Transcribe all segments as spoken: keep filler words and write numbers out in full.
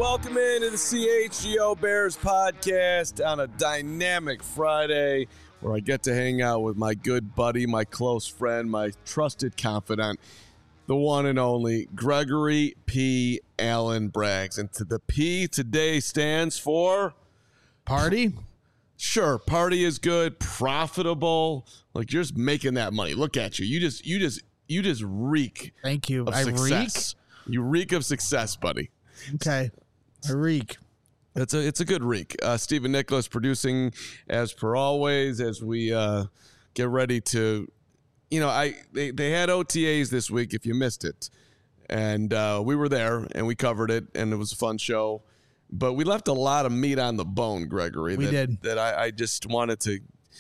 welcome into the C H G O Bears podcast on a dynamic Friday where I get to hang out with my good buddy, my close friend, my trusted confidant, the one and only Gregory P. Allen Braggs. And to the P today stands for... Party? Sure, party is good, profitable. Like, you're just making that money. Look at you. You just, you just, you just reek. Thank you. Of I success. reek? You reek of success, buddy. Okay. I reek. It's a it's a good reek. Uh, Stephen Nicholas producing as per always as we uh, get ready to, you know, I they, they had O T As this week if you missed it, and uh, we were there and we covered it and it was a fun show, but we left a lot of meat on the bone, Gregory. We that, did. That I, I just wanted to,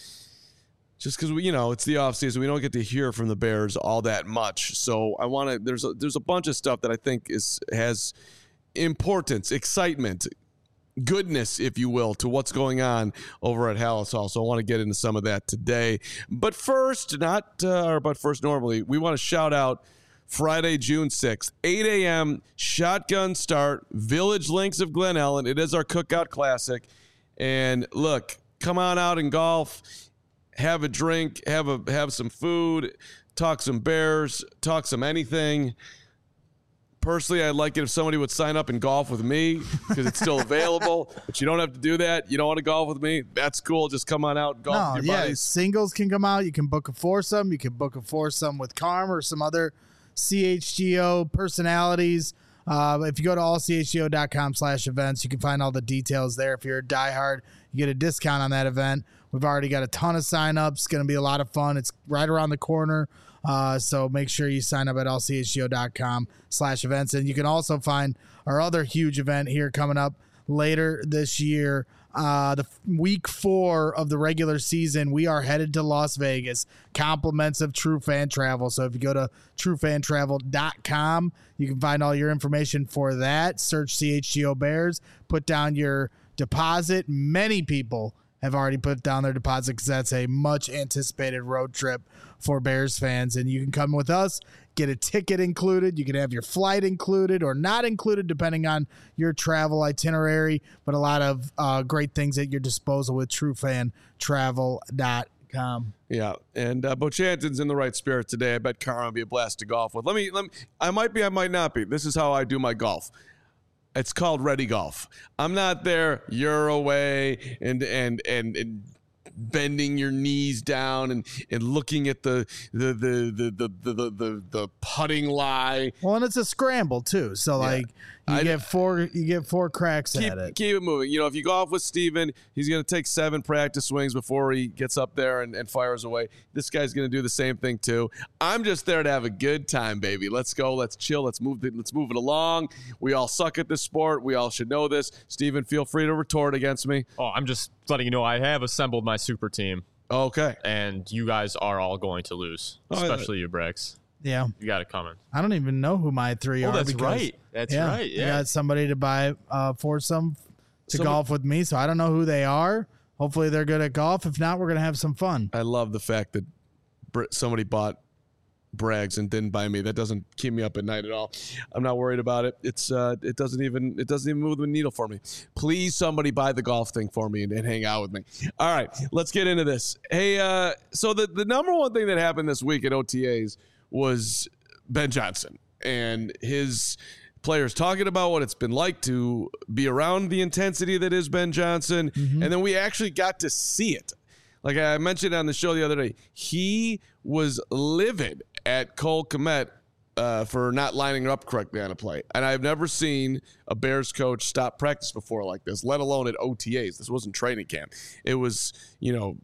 just because we you know it's the offseason, we don't get to hear from the Bears all that much. So I want to there's a, there's a bunch of stuff that I think is has importance, excitement, goodness, if you will, to what's going on over at Halas Hall. So I want to get into some of that today. But first, not, uh, or but first normally, we want to shout out Friday, June sixth, eight a.m., shotgun start, Village Links of Glen Ellen. It is our Cookout Classic. And look, come on out and golf, have a drink, have a have some food, talk some Bears, talk some anything. Personally, I'd like it if somebody would sign up and golf with me because it's still available, but you don't have to do that. You don't want to golf with me? That's cool. Just come on out and golf No, with your yeah, buddies. singles can come out. You can book a foursome. You can book a foursome with Carm or some other C H G O personalities. Uh, if you go to all c h g o dot com slash events, you can find all the details there. If you're a diehard, you get a discount on that event. We've already got a ton of signups. It's going to be a lot of fun. It's right around the corner. Uh, so make sure you sign up at all c h g o dot com slash events. And you can also find our other huge event here coming up later this year. Uh, the week four of the regular season, we are headed to Las Vegas, compliments of True Fan Travel. So if you go to true fan travel dot com, you can find all your information for that. Search C H G O Bears, put down your deposit. Many people have already put down their deposit because that's a much anticipated road trip for Bears fans. And you can come with us, get a ticket included. You can have your flight included or not included depending on your travel itinerary, but a lot of uh, great things at your disposal with true fan travel dot com. Yeah, and uh, Bochanton's in the right spirit today. I bet Carm will be a blast to golf with. Let me, let me, I might be, I might not be. This is how I do my golf. It's called Ready Golf. I'm not there, you're away, and and and, and bending your knees down and, and looking at the the the the the the, the, the, the putting lie. Well, and it's a scramble too. So yeah. like you I, get four you get four cracks keep, at it. Keep it moving. You know, if you golf with Steven, he's gonna take seven practice swings before he gets up there and, and fires away. This guy's gonna do the same thing too. I'm just there to have a good time, baby. Let's go, let's chill, let's move the, let's move it along. We all suck at this sport. We all should know this. Steven, feel free to retort against me. Oh, I'm just letting you know I have assembled my super team. Okay. And you guys are all going to lose, oh, especially you, Braggs. Yeah. You got it coming. I don't even know who my three oh, are. That's because, right. That's yeah, right. Yeah. I got somebody to buy uh, foursome to Some, golf with me, so I don't know who they are. Hopefully they're good at golf. If not, we're going to have some fun. I love the fact that somebody bought Braggs and didn't buy me. That doesn't keep me up at night at all. I'm not worried about it. It's uh, it doesn't even it doesn't even move the needle for me. Please, somebody buy the golf thing for me and, and hang out with me. All right, let's get into this. Hey, uh, so the the number one thing that happened this week at O T As was Ben Johnson and his players talking about what it's been like to be around the intensity that is Ben Johnson, mm-hmm. and then we actually got to see it. Like I mentioned on the show the other day, he was livid at Cole Kmet uh, for not lining up correctly on a play. And I've never seen a Bears coach stop practice before like this, let alone at O T As. This wasn't training camp. It was, you know,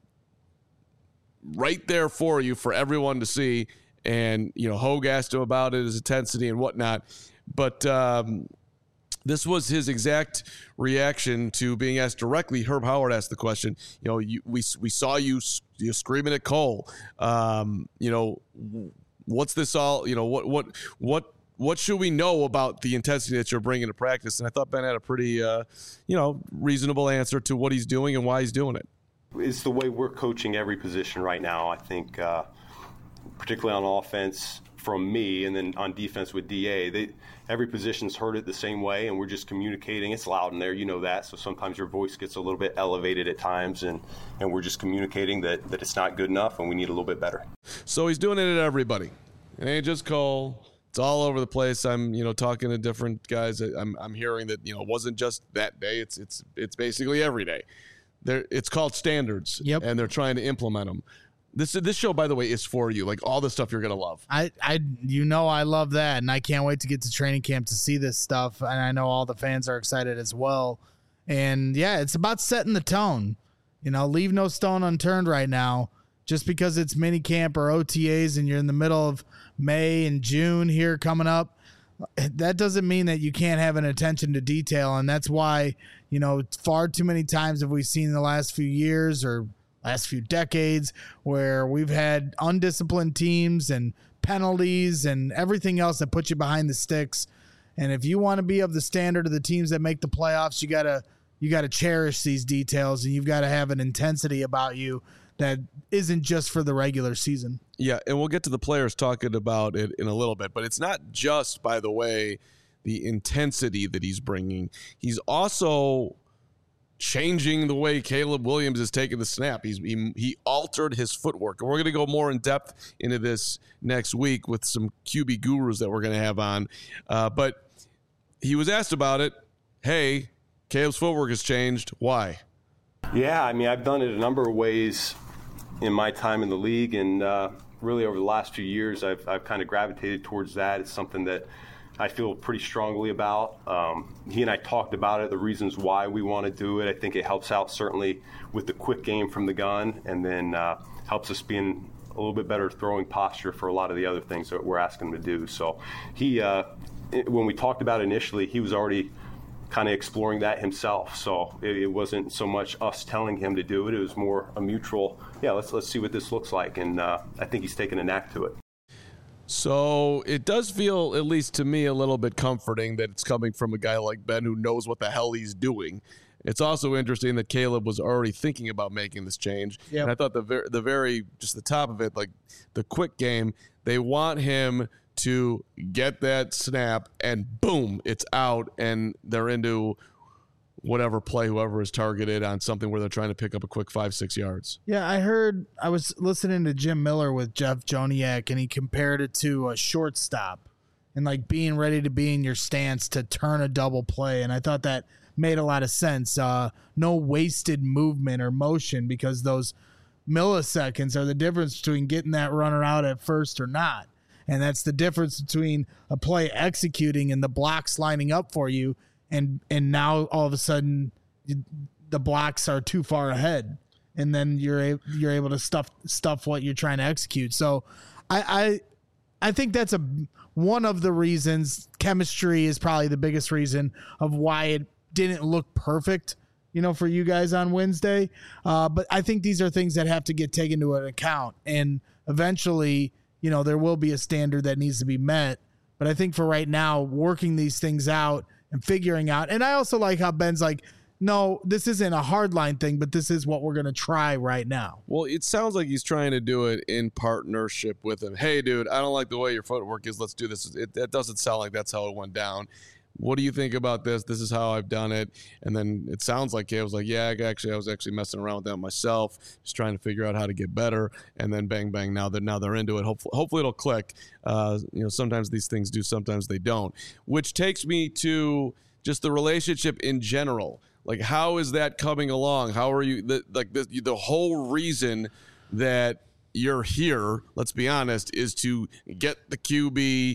right there for you for everyone to see. And, you know, Hogue asked him about it, his intensity and whatnot. But um, this was his exact reaction to being asked directly. Herb Howard asked the question, you know, you, we we saw you, you screaming at Cole. Um, you know, what's this all, you know, what what what what should we know about the intensity that you're bringing to practice? And I thought Ben had a pretty, uh, you know, reasonable answer to what he's doing and why he's doing it. It's the way we're coaching every position right now. I think, uh, particularly on offense from me, and then on defense with D A. They, every position's heard it the same way, and we're just communicating. It's loud in there, you know that, so sometimes your voice gets a little bit elevated at times, and, and we're just communicating that, that it's not good enough and we need a little bit better. So he's doing it at everybody. It ain't just Cole. It's all over the place. I'm, you know, talking to different guys. I'm, I'm hearing that, you know, it wasn't just that day. It's, it's, it's basically every day. There, it's called standards, yep. and they're trying to implement them. This, this show, by the way, is for you. Like all the stuff you're gonna love. I, I, you know, I love that, and I can't wait to get to training camp to see this stuff. And I know all the fans are excited as well. And yeah, it's about setting the tone. You know, leave no stone unturned right now. Just because it's mini camp or O T As and you're in the middle of May and June here coming up, that doesn't mean that you can't have an attention to detail. And that's why, you know, far too many times have we seen in the last few years or last few decades where we've had undisciplined teams and penalties and everything else that puts you behind the sticks. And if you want to be of the standard of the teams that make the playoffs, you gotta you gotta cherish these details, and you've got to have an intensity about you that isn't just for the regular season. Yeah, and we'll get to the players talking about it in a little bit, but it's not just, by the way, the intensity that he's bringing. He's also changing the way Caleb Williams is taking the snap. He's he, he altered his footwork, and we're going to go more in depth into this next week with some Q B gurus that we're going to have on. Uh, but he was asked about it. Hey, Caleb's footwork has changed. Why? Yeah, I mean, I've done it a number of ways in my time in the league, and uh, really over the last few years, I've, I've kind of gravitated towards that. It's something that I feel pretty strongly about. Um, he and I talked about it, the reasons why we want to do it. I think it helps out certainly with the quick game from the gun, and then uh, helps us be in a little bit better throwing posture for a lot of the other things that we're asking him to do. So he, uh, it, when we talked about it initially, he was already kind of exploring that himself. So it, it wasn't so much us telling him to do it. It was more a mutual, yeah, let's let's see what this looks like. And uh, I think he's taken a knack to it. So it does feel, at least to me, a little bit comforting that it's coming from a guy like Ben who knows what the hell he's doing. It's also interesting that Caleb was already thinking about making this change. Yep. And I thought the very, the very, just the top of it, like the quick game, they want him to get that snap and boom, it's out, and they're into whatever play whoever is targeted on something where they're trying to pick up a quick five, six yards. Yeah, I heard, I was listening to Jim Miller with Jeff Joniak, and he compared it to a shortstop and like being ready to be in your stance to turn a double play. And I thought that made a lot of sense. Uh, no wasted movement or motion, because those milliseconds are the difference between getting that runner out at first or not. And that's the difference between a play executing and the blocks lining up for you. And and now all of a sudden the blocks are too far ahead, and then you're a, you're able to stuff stuff what you're trying to execute. So I I, I think that's a one of the reasons. Chemistry is probably the biggest reason of why it didn't look perfect, you know, for you guys on Wednesday. Uh, but I think these are things that have to get taken into account, and eventually, you know, there will be a standard that needs to be met. But I think for right now, working these things out and figuring out. And I also like how Ben's like, no, this isn't a hardline thing, but this is what we're going to try right now. Well, it sounds like he's trying to do it in partnership with him. Hey, dude, I don't like the way your footwork is. Let's do this. It, it doesn't sound like that's how it went down. What do you think about this? This is how I've done it. And then it sounds like it was like, yeah, actually, I was actually messing around with that myself, just trying to figure out how to get better. And then bang, bang, now that now they're into it. Hopefully, hopefully it'll click. Uh, you know, sometimes these things do, sometimes they don't. Which takes me to just the relationship in general. Like, how is that coming along? How are you? The, like the the whole reason that you're here, let's be honest, is to get the Q B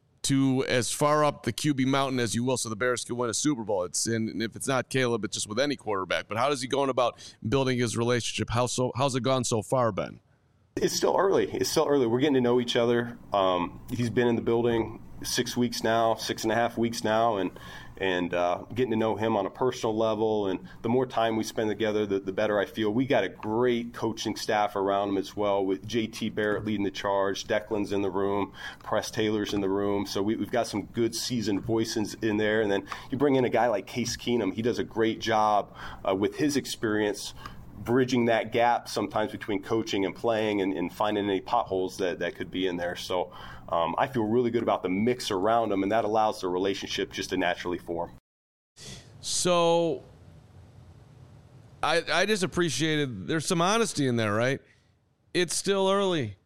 to as far up the Q B mountain as you will, so the Bears can win a Super Bowl. It's and if it's not Caleb, it's just with any quarterback. But how is he going about building his relationship? How so? How's it gone so far, Ben? It's still early. It's still early. We're getting to know each other. Um, he's been in the building six weeks now, six and a half weeks now, and and uh, getting to know him on a personal level. And the more time we spend together, the, the better I feel. We got a great coaching staff around him as well, with J T Barrett leading the charge. Declan's in the room. Press Taylor's in the room. So we, we've got some good seasoned voices in there. And then you bring in a guy like Case Keenum. He does a great job uh, with his experience bridging that gap sometimes between coaching and playing and, and finding any potholes that, that could be in there. So um, I feel really good about the mix around them, and that allows the relationship just to naturally form. So I, I just appreciated there's some honesty in there, right? It's still early.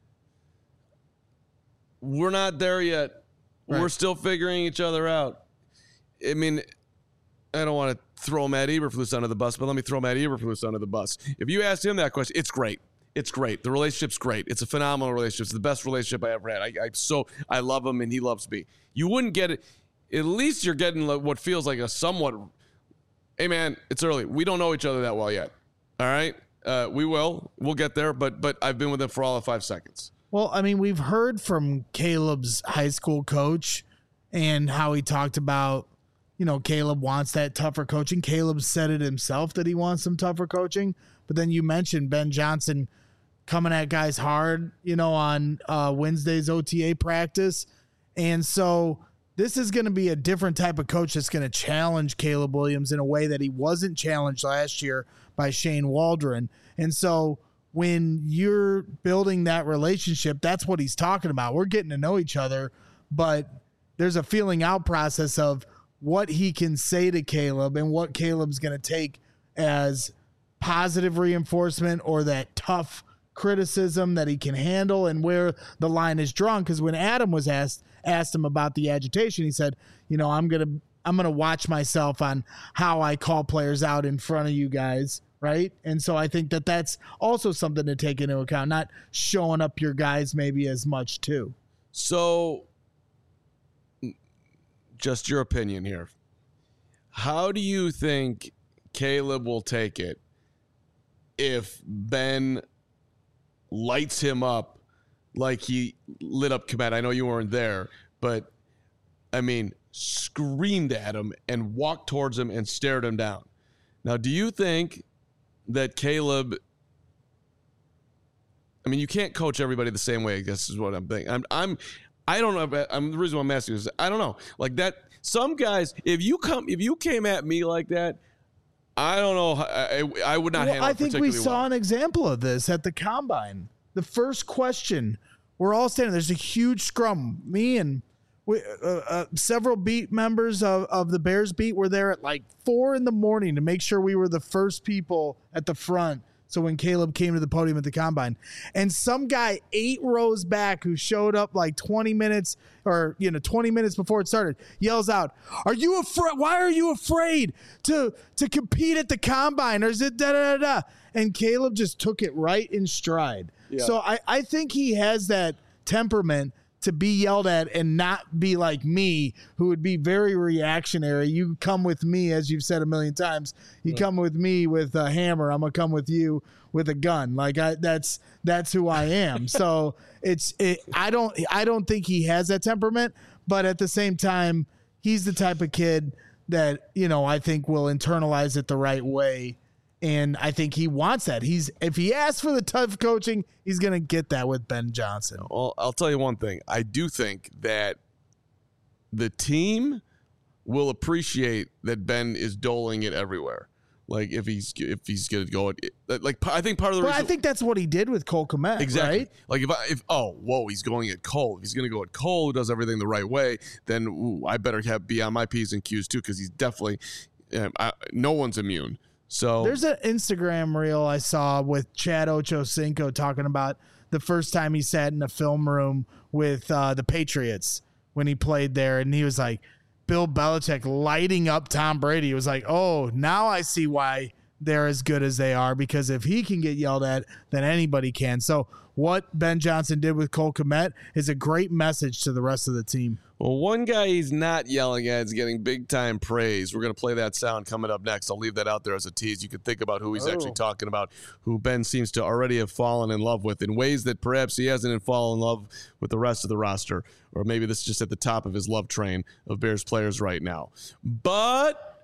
We're not there yet. Right. We're still figuring each other out. I mean, I don't want to throw Matt Eberflus under the bus, but let me throw Matt Eberflus under the bus. If you asked him that question, it's great. It's great. The relationship's great. It's a phenomenal relationship. It's the best relationship I ever had. I, I so I love him and he loves me. You wouldn't get it. At least you're getting like what feels like a somewhat. Hey man, it's early. We don't know each other that well yet. All right, uh, we will. We'll get there. But but I've been with him for all of five seconds. Well, I mean, we've heard from Caleb's high school coach and how he talked about, you know, Caleb wants that tougher coaching. Caleb said it himself that he wants some tougher coaching. But then you mentioned Ben Johnson coming at guys hard, you know, on uh, Wednesday's O T A practice. And so this is going to be a different type of coach that's going to challenge Caleb Williams in a way that he wasn't challenged last year by Shane Waldron. And so when you're building that relationship, that's what he's talking about. We're getting to know each other, but there's a feeling out process of what he can say to Caleb and what Caleb's going to take as positive reinforcement or that tough criticism that he can handle and where the line is drawn. Because when Adam was asked asked him about the agitation, he said, you know, I'm going to I'm going to watch myself on how I call players out in front of you guys. Right. And so I think that that's also something to take into account, not showing up your guys maybe as much too. So just your opinion here. How do you think Caleb will take it if Ben lights him up like he lit up Kmet? I know you weren't there, but I mean, screamed at him and walked towards him and stared him down. Now, do you think that Caleb, I mean, you can't coach everybody the same way, I guess is what I'm thinking. I'm, I'm, I don't know. I'm the reason why I'm asking is I don't know. Like that, some guys, if you come, if you came at me like that, I don't know. I, I would not well, handle it I think we saw well. an example of this at the combine. The first question, we're all standing. There's a huge scrum. Me and we, uh, uh, several beat members of, of the Bears beat were there at like four in the morning to make sure we were the first people at the front. So when Caleb came to the podium at the combine, and some guy eight rows back who showed up like twenty minutes or, you know, twenty minutes before it started yells out, are you afraid? Why are you afraid to, to compete at the combine? Or is it da da da da? And Caleb just took it right in stride. Yeah. So I, I think he has that temperament to be yelled at and not be like me, who would be very reactionary. You come with me, as you've said a million times. You yeah. come with me with a hammer. I'm gonna come with you with a gun. Like I, that's that's who I am. So it's it, I don't I don't think he has that temperament, but at the same time, he's the type of kid that, you know, I think will internalize it the right way. And I think he wants that. He's if he asks for the tough coaching, he's going to get that with Ben Johnson. Well, I'll tell you one thing. I do think that the team will appreciate that Ben is doling it everywhere. Like if he's if he's going to go, like I think part of the but reason. I think that's what he did with Cole Kmet, exactly. Right? Like if I if oh whoa he's going at Cole. If he's going to go at Cole, who does everything the right way, then ooh, I better have be on my P's and Q's too, because he's definitely um, I, no one's immune. So there's an Instagram reel I saw with Chad Ochocinco talking about the first time he sat in a film room with uh, the Patriots when he played there. And he was like, Bill Belichick lighting up Tom Brady. He was like, oh, now I see why they're as good as they are, because if he can get yelled at, then anybody can. So what Ben Johnson did with Cole Kmet is a great message to the rest of the team. Well, one guy he's not yelling at is getting big-time praise. We're going to play that sound coming up next. I'll leave that out there as a tease. You can think about who he's oh. actually talking about, who Ben seems to already have fallen in love with in ways that perhaps he hasn't fallen in love with the rest of the roster. Or maybe this is just at the top of his love train of Bears players right now. But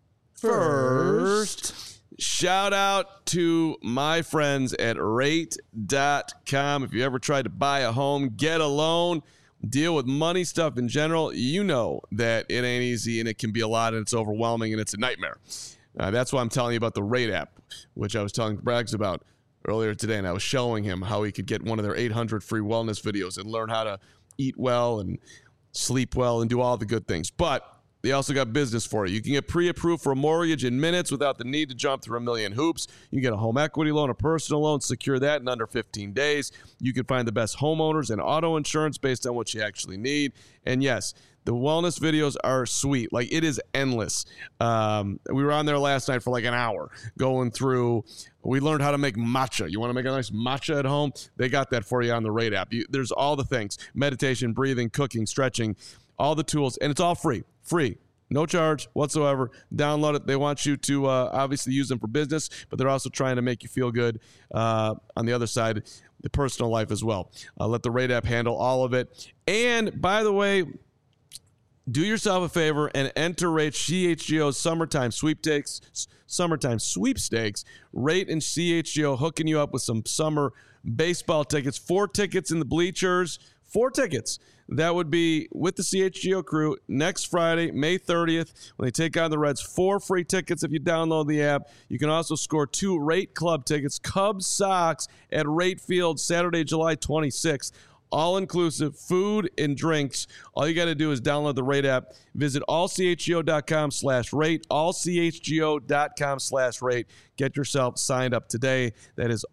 first, shout out to my friends at rate dot com. If you ever tried to buy a home, get a loan, deal with money stuff in general, you know that it ain't easy and it can be a lot and it's overwhelming and it's a nightmare. Uh, that's why I'm telling you about the Rate app, which I was telling Braggs about earlier today, and I was showing him how he could get one of their eight hundred free wellness videos and learn how to eat well and sleep well and do all the good things. But they also got business for you. You can get pre-approved for a mortgage in minutes without the need to jump through a million hoops. You can get a home equity loan, a personal loan, secure that in under fifteen days. You can find the best homeowners and auto insurance based on what you actually need. And yes, the wellness videos are sweet. Like, it is endless. Um, we were on there last night for like an hour going through. We learned how to make matcha. You want to make a nice matcha at home? They got that for you on the Rate app. You, there's all the things: meditation, breathing, cooking, stretching, all the tools, and it's all free. Free. No charge whatsoever. Download it. They want you to uh, obviously use them for business, but they're also trying to make you feel good uh, on the other side, the personal life as well. Uh, let the Rate app handle all of it. And by the way, do yourself a favor and enter Rate C H G O's summertime sweepstakes. Summertime sweepstakes. Rate and C H G O hooking you up with some summer baseball tickets. Four tickets in the bleachers. Four tickets. That would be with the C H G O crew next Friday, May thirtieth, when they take on the Reds. Four free tickets if you download the app. You can also score two Rate Club tickets, Cubs Sox at Rate Field, Saturday, July twenty-sixth. All-inclusive, food and drinks. All you got to do is download the Rate app. Visit allchgo.com slash rate, allchgo.com slash rate. Get yourself signed up today. That is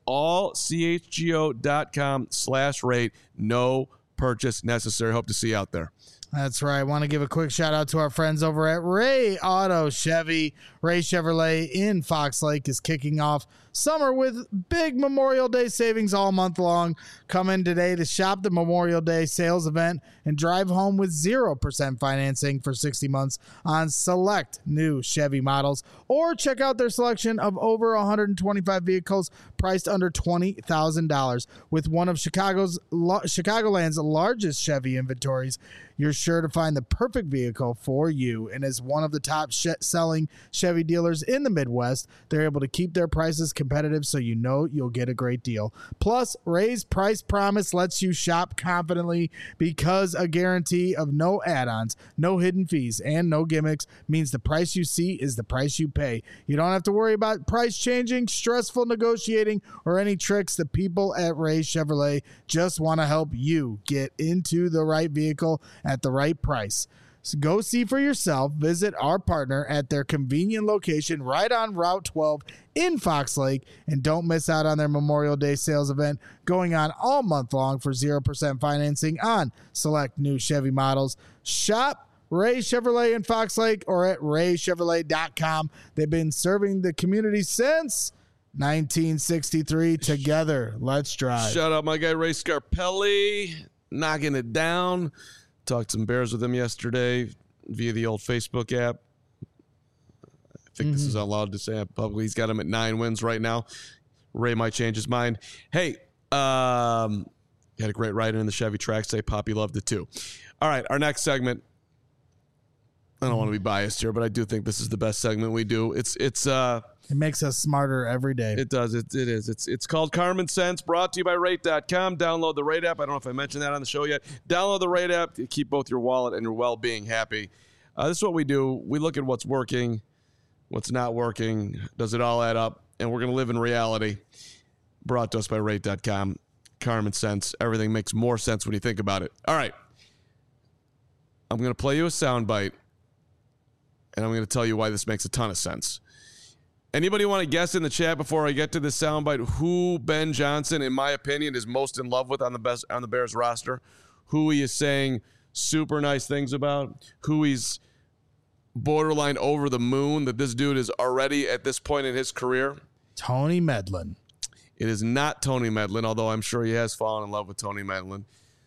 allchgo.com slash rate. No purchase necessary. Hope to see you out there. That's right. I want to give a quick shout out to our friends over at Ray Auto Chevy. Ray Chevrolet in Fox Lake is kicking off summer with big Memorial Day savings all month long. Come in today to shop the Memorial Day sales event and drive home with zero percent financing for sixty months on select new Chevy models, or check out their selection of over one hundred twenty-five vehicles priced under twenty thousand dollars. With one of Chicago's Chicagoland's largest Chevy inventories, you're sure to find the perfect vehicle for you. And as one of the top sh- selling Chevy dealers in the Midwest, they're able to keep their prices competitive, so you know you'll get a great deal. Plus, Ray's price promise lets you shop confidently, because a guarantee of no add-ons, no hidden fees, and no gimmicks means the price you see is the price you pay. You don't have to worry about price changing, stressful negotiating, or any tricks. The people at Ray Chevrolet just want to help you get into the right vehicle at the right price. So go see for yourself. Visit our partner at their convenient location right on Route twelve in Fox Lake, and don't miss out on their Memorial Day sales event going on all month long for zero percent financing on select new Chevy models. Shop Ray Chevrolet in Fox Lake or at ray chevrolet dot com. They've been serving the community since nineteen sixty-three. Together, let's drive. Shout out my guy Ray Scarpelli, knocking it down. Talked some Bears with him yesterday via the old Facebook app. I think mm-hmm. this is allowed to say publicly. He's got him at nine wins right now. Ray might change his mind. Hey, um, you had a great ride in the Chevy track today. Poppy loved it too. All right, our next segment. I don't want to be biased here, but I do think this is the best segment we do. It's it's uh It makes us smarter every day. It does. It, it is. It's it's called Carmen Sense, brought to you by Rate dot com. Download the Rate app. I don't know if I mentioned that on the show yet. Download the Rate app to keep both your wallet and your well-being happy. Uh, this is what we do. We look at what's working, what's not working. Does it all add up? And we're going to live in reality. Brought to us by Rate dot com. Carmen Sense. Everything makes more sense when you think about it. All right. I'm going to play you a soundbite, and I'm going to tell you why this makes a ton of sense. Anybody want to guess in the chat before I get to this soundbite who Ben Johnson, in my opinion, is most in love with on the best on the Bears roster? Who he is saying super nice things about? Who he's borderline over the moon that this dude is already at this point in his career? Tony Medlin. It is not Tony Medlin, although I'm sure he has fallen in love with Tony Medlin.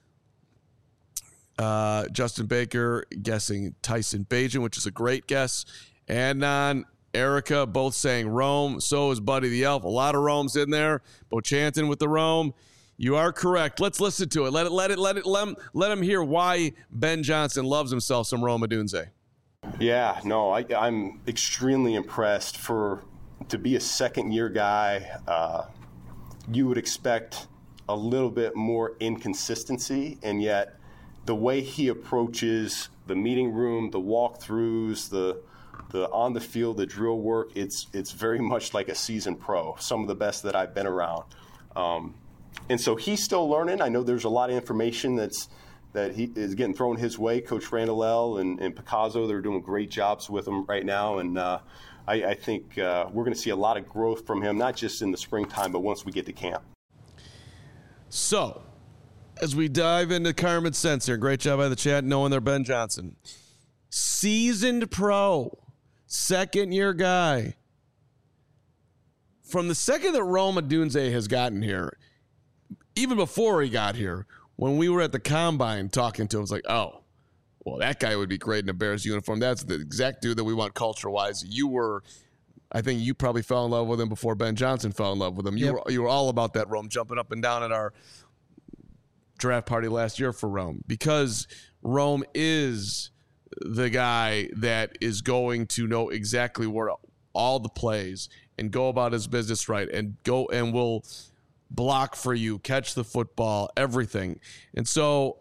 Uh, Justin Baker guessing Tyson Bagent, which is a great guess. Adnan, Erica, both saying Rome. So is Buddy the Elf. A lot of Rome's in there. Bochanton with the Rome. You are correct. Let's listen to it. Let it, let it, let it, let him, let him hear why Ben Johnson loves himself some Rome Odunze. Yeah, no, I, I'm extremely impressed. For to be a second-year guy, uh, you would expect a little bit more inconsistency, and yet the way he approaches the meeting room, the walkthroughs, the the on the field, the drill work, it's it's very much like a seasoned pro, some of the best that I've been around. Um, and so he's still learning. I know there's a lot of information that's that he is getting thrown his way. Coach Randall and, and Picasso, they're doing great jobs with him right now. And uh, I, I think uh, we're going to see a lot of growth from him, not just in the springtime, but once we get to camp. So, as we dive into Carmen's sense here, great job by the chat knowing they're Ben Johnson. Seasoned pro, second-year guy. From the second that Rome Odunze has gotten here, even before he got here, when we were at the Combine talking to him, it was like, oh, well, that guy would be great in a Bears uniform. That's the exact dude that we want culture-wise. You were, I think you probably fell in love with him before Ben Johnson fell in love with him. You, yep. were, you were all about that, Rome, jumping up and down at our draft party last year for Rome, because Rome is the guy that is going to know exactly where all the plays and go about his business right and go and will block for you, catch the football, everything. And so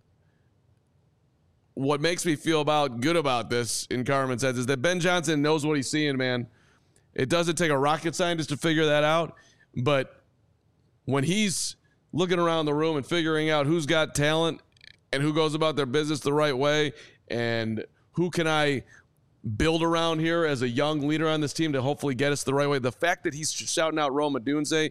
what makes me feel about good about this in Carmen's head is that Ben Johnson knows what he's seeing, man. It doesn't take a rocket scientist to figure that out, but when he's looking around the room and figuring out who's got talent and who goes about their business the right way and who can I build around here as a young leader on this team to hopefully get us the right way. The fact that he's shouting out Rome Odunze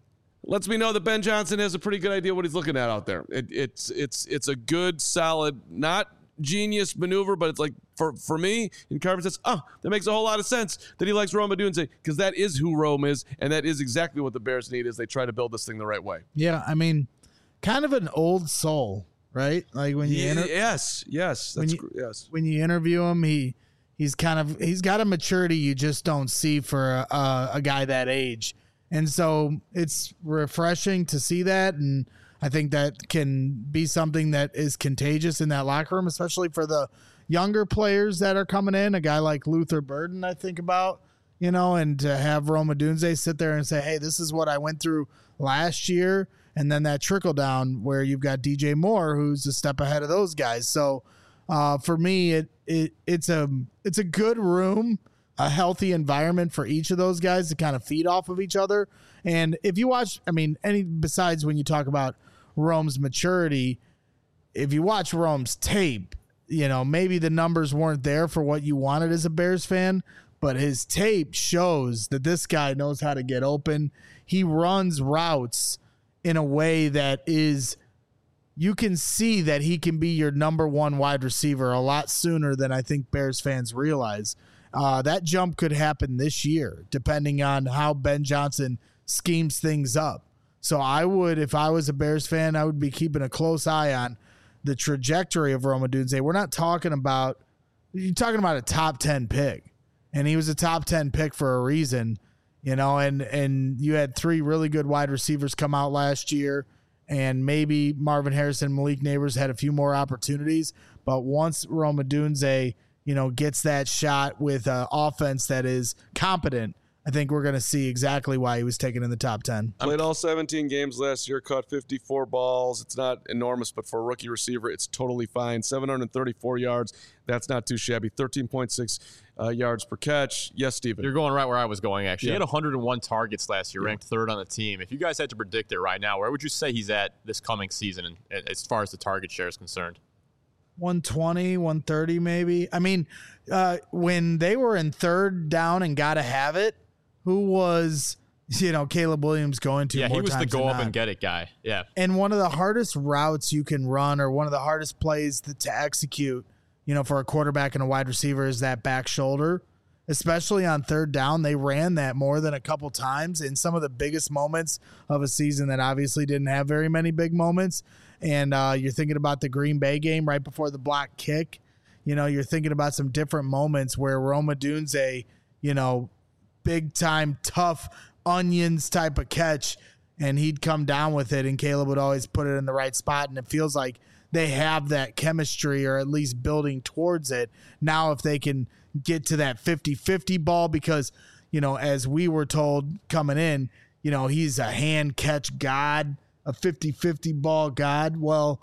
lets me know that Ben Johnson has a pretty good idea what he's looking at out there. It, it's it's it's a good, solid, not genius maneuver, but it's like for for me, and Carmen says, oh, that makes a whole lot of sense that he likes Rome Odunze, because that is who Rome is, and that is exactly what the Bears need as they try to build this thing the right way. Yeah, I mean, kind of an old soul, right? Like when you yeah, inter- yes, yes, that's when you, gr- yes. When you interview him, he he's kind of he's got a maturity you just don't see for a, a, a guy that age. And so it's refreshing to see that, and I think that can be something that is contagious in that locker room, especially for the younger players that are coming in. A guy like Luther Burden, I think about, you know, and to have Rome Odunze sit there and say, hey, this is what I went through last year, and then that trickle down where you've got D J Moore, who's a step ahead of those guys. So uh, for me, it it it's a it's a good room, a healthy environment for each of those guys to kind of feed off of each other. And if you watch, I mean, any besides when you talk about Rome's maturity, if you watch Rome's tape, you know, maybe the numbers weren't there for what you wanted as a Bears fan, but his tape shows that this guy knows how to get open. He runs routes in a way that is, you can see that he can be your number one wide receiver a lot sooner than I think Bears fans realize. Uh, that jump could happen this year, depending on how Ben Johnson schemes things up. So I would, if I was a Bears fan, I would be keeping a close eye on the trajectory of Rome Odunze. We're not talking about, you're talking about a top ten pick, and he was a top ten pick for a reason, you know, and, and you had three really good wide receivers come out last year, and maybe Marvin Harrison, Malik Neighbors had a few more opportunities, but once Rome Odunze, you know, gets that shot with an offense that is competent, I think we're going to see exactly why he was taken in the top ten. Played all seventeen games last year, caught fifty-four balls. It's not enormous, but for a rookie receiver, it's totally fine. seven hundred thirty-four yards. That's not too shabby. thirteen point six uh, yards per catch. Yes, Steven. You're going right where I was going, actually. Yeah. He had one hundred one targets last year, Yeah. ranked third on the team. If you guys had to predict it right now, where would you say he's at this coming season as far as the target share is concerned? one twenty, one thirty maybe. I mean, uh, when they were in third down and got to have it, who was, you know, Caleb Williams going to Yeah, more he was the times go than up not. and get it guy. Yeah. And one of the hardest routes you can run, or one of the hardest plays to, to execute, you know, for a quarterback and a wide receiver, is that back shoulder. Especially on third down, they ran that more than a couple times in some of the biggest moments of a season that obviously didn't have very many big moments. And uh, you're thinking about the Green Bay game right before the block kick. You know, you're thinking about some different moments where Rome Odunze, you know, big time, tough onions type of catch, and he'd come down with it, and Caleb would always put it in the right spot. And it feels like they have that chemistry, or at least building towards it. Now, if they can get to that fifty-fifty ball, because, you know, as we were told coming in, you know, he's a hand catch god, a fifty-fifty ball god. Well,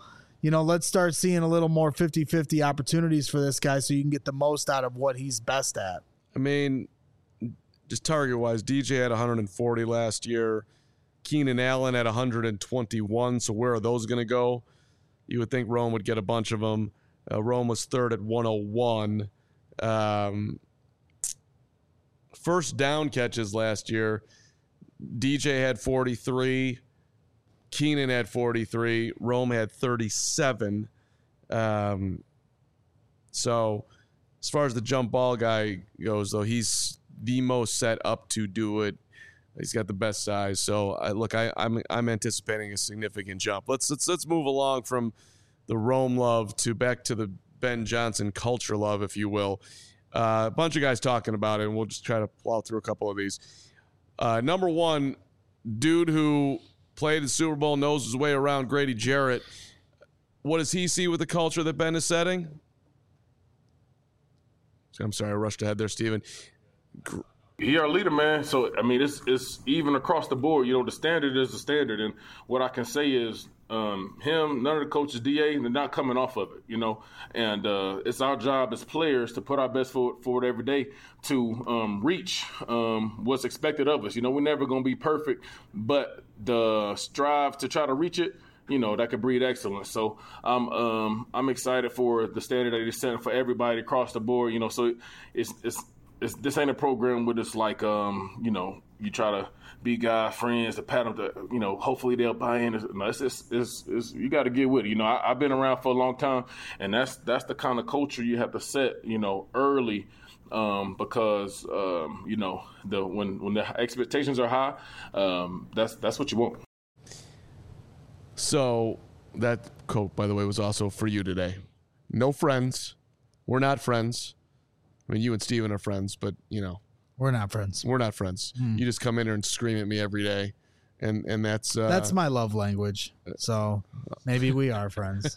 you know, let's start seeing a little more fifty-fifty opportunities for this guy so you can get the most out of what he's best at. I mean, just target-wise, D J had one hundred forty last year. Keenan Allen had one hundred twenty-one, so where are those going to go? You would think Rome would get a bunch of them. Uh, Rome was third at one oh one. Um, first down catches last year, D J had forty-three. Keenan had forty-three. Rome had thirty-seven. Um, so as far as the jump ball guy goes, though, he's the most set up to do it. He's got the best size. So I, look, I, I'm I'm anticipating a significant jump. Let's let's let's move along from the Rome love to back to the Ben Johnson culture love, if you will. Uh, a bunch of guys talking about it, and we'll just try to plow through a couple of these. Uh, number one, dude who played the Super Bowl, knows his way around, Grady Jarrett. What does he see with the culture that Ben is setting? I'm sorry, I rushed ahead there, Steven. He our leader, man. So, I mean, it's it's even across the board. You know, the standard is the standard. And what I can say is um, him, none of the coaches, D A, they're not coming off of it, you know. And uh, it's our job as players to put our best foot forward every day to um, reach um, what's expected of us. You know, we're never going to be perfect, but the strive to try to reach it, you know, that could breed excellence. So I'm um, I'm excited for the standard that he's setting for everybody across the board. You know, so it's it's, it's this ain't a program where it's like um, you know, you try to be guy friends to pat them to, you know, hopefully they'll buy in. No, it's it's, it's, it's you got to get with it. You know, I, I've been around for a long time, and that's that's the kind of culture you have to set, you know, early. Um, because um, you know, the when when the expectations are high, um, that's that's what you want. So that quote, by the way, was also for you today. No friends. We're not friends. I mean, you and Steven are friends, but, you know. We're not friends. We're not friends. Mm. You just come in here and scream at me every day, and, and that's... Uh, that's my love language, so maybe we are friends.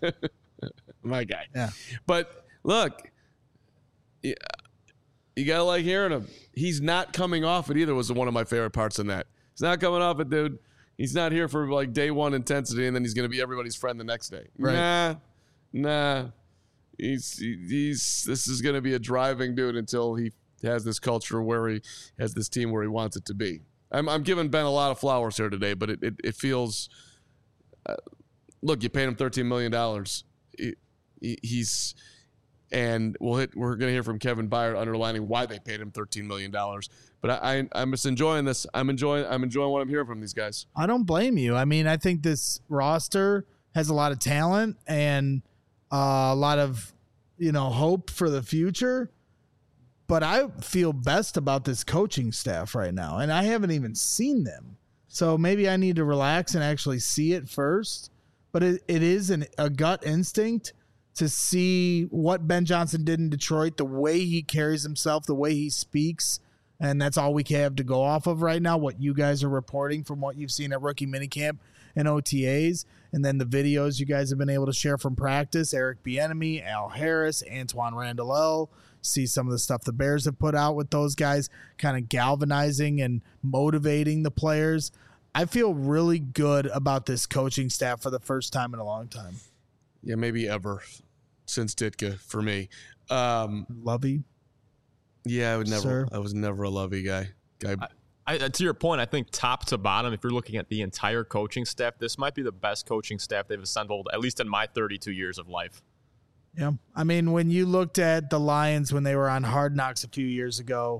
My guy. Yeah. But, look, you, you got to like hearing him. He's not coming off it either was one of my favorite parts in that. He's not coming off it, dude. He's not here for like day one intensity, and then he's going to be everybody's friend the next day. Right. Nah, nah. He's he's. This is going to be a driving dude until he has this culture where he has this team where he wants it to be. I'm I'm giving Ben a lot of flowers here today, but it it, it feels. Uh, look, you paid him thirteen million dollars. He, he, he's. And we'll hit. We're going to hear from Kevin Byard underlining why they paid him thirteen million dollars. But I, I, I'm just enjoying this. I'm enjoying. I'm enjoying what I'm hearing from these guys. I don't blame you. I mean, I think this roster has a lot of talent and uh, a lot of, you know, hope for the future. But I feel best about this coaching staff right now, and I haven't even seen them. So maybe I need to relax and actually see it first. But it, it is an, a gut instinct to see what Ben Johnson did in Detroit, the way he carries himself, the way he speaks, and that's all we have to go off of right now, what you guys are reporting from what you've seen at rookie minicamp and O T As, and then the videos you guys have been able to share from practice, Eric Bieniemy, Al Harris, Antoine Randall, see some of the stuff the Bears have put out with those guys, kind of galvanizing and motivating the players. I feel really good about this coaching staff for the first time in a long time. Yeah, maybe ever. Since Ditka for me. Um, Lovey? Yeah, I would never. Sir? I was never a Lovey guy. guy. I, I, to your point, I think top to bottom, if you're looking at the entire coaching staff, this might be the best coaching staff they've assembled, at least in my thirty-two years of life. Yeah. I mean, when you looked at the Lions when they were on Hard Knocks a few years ago,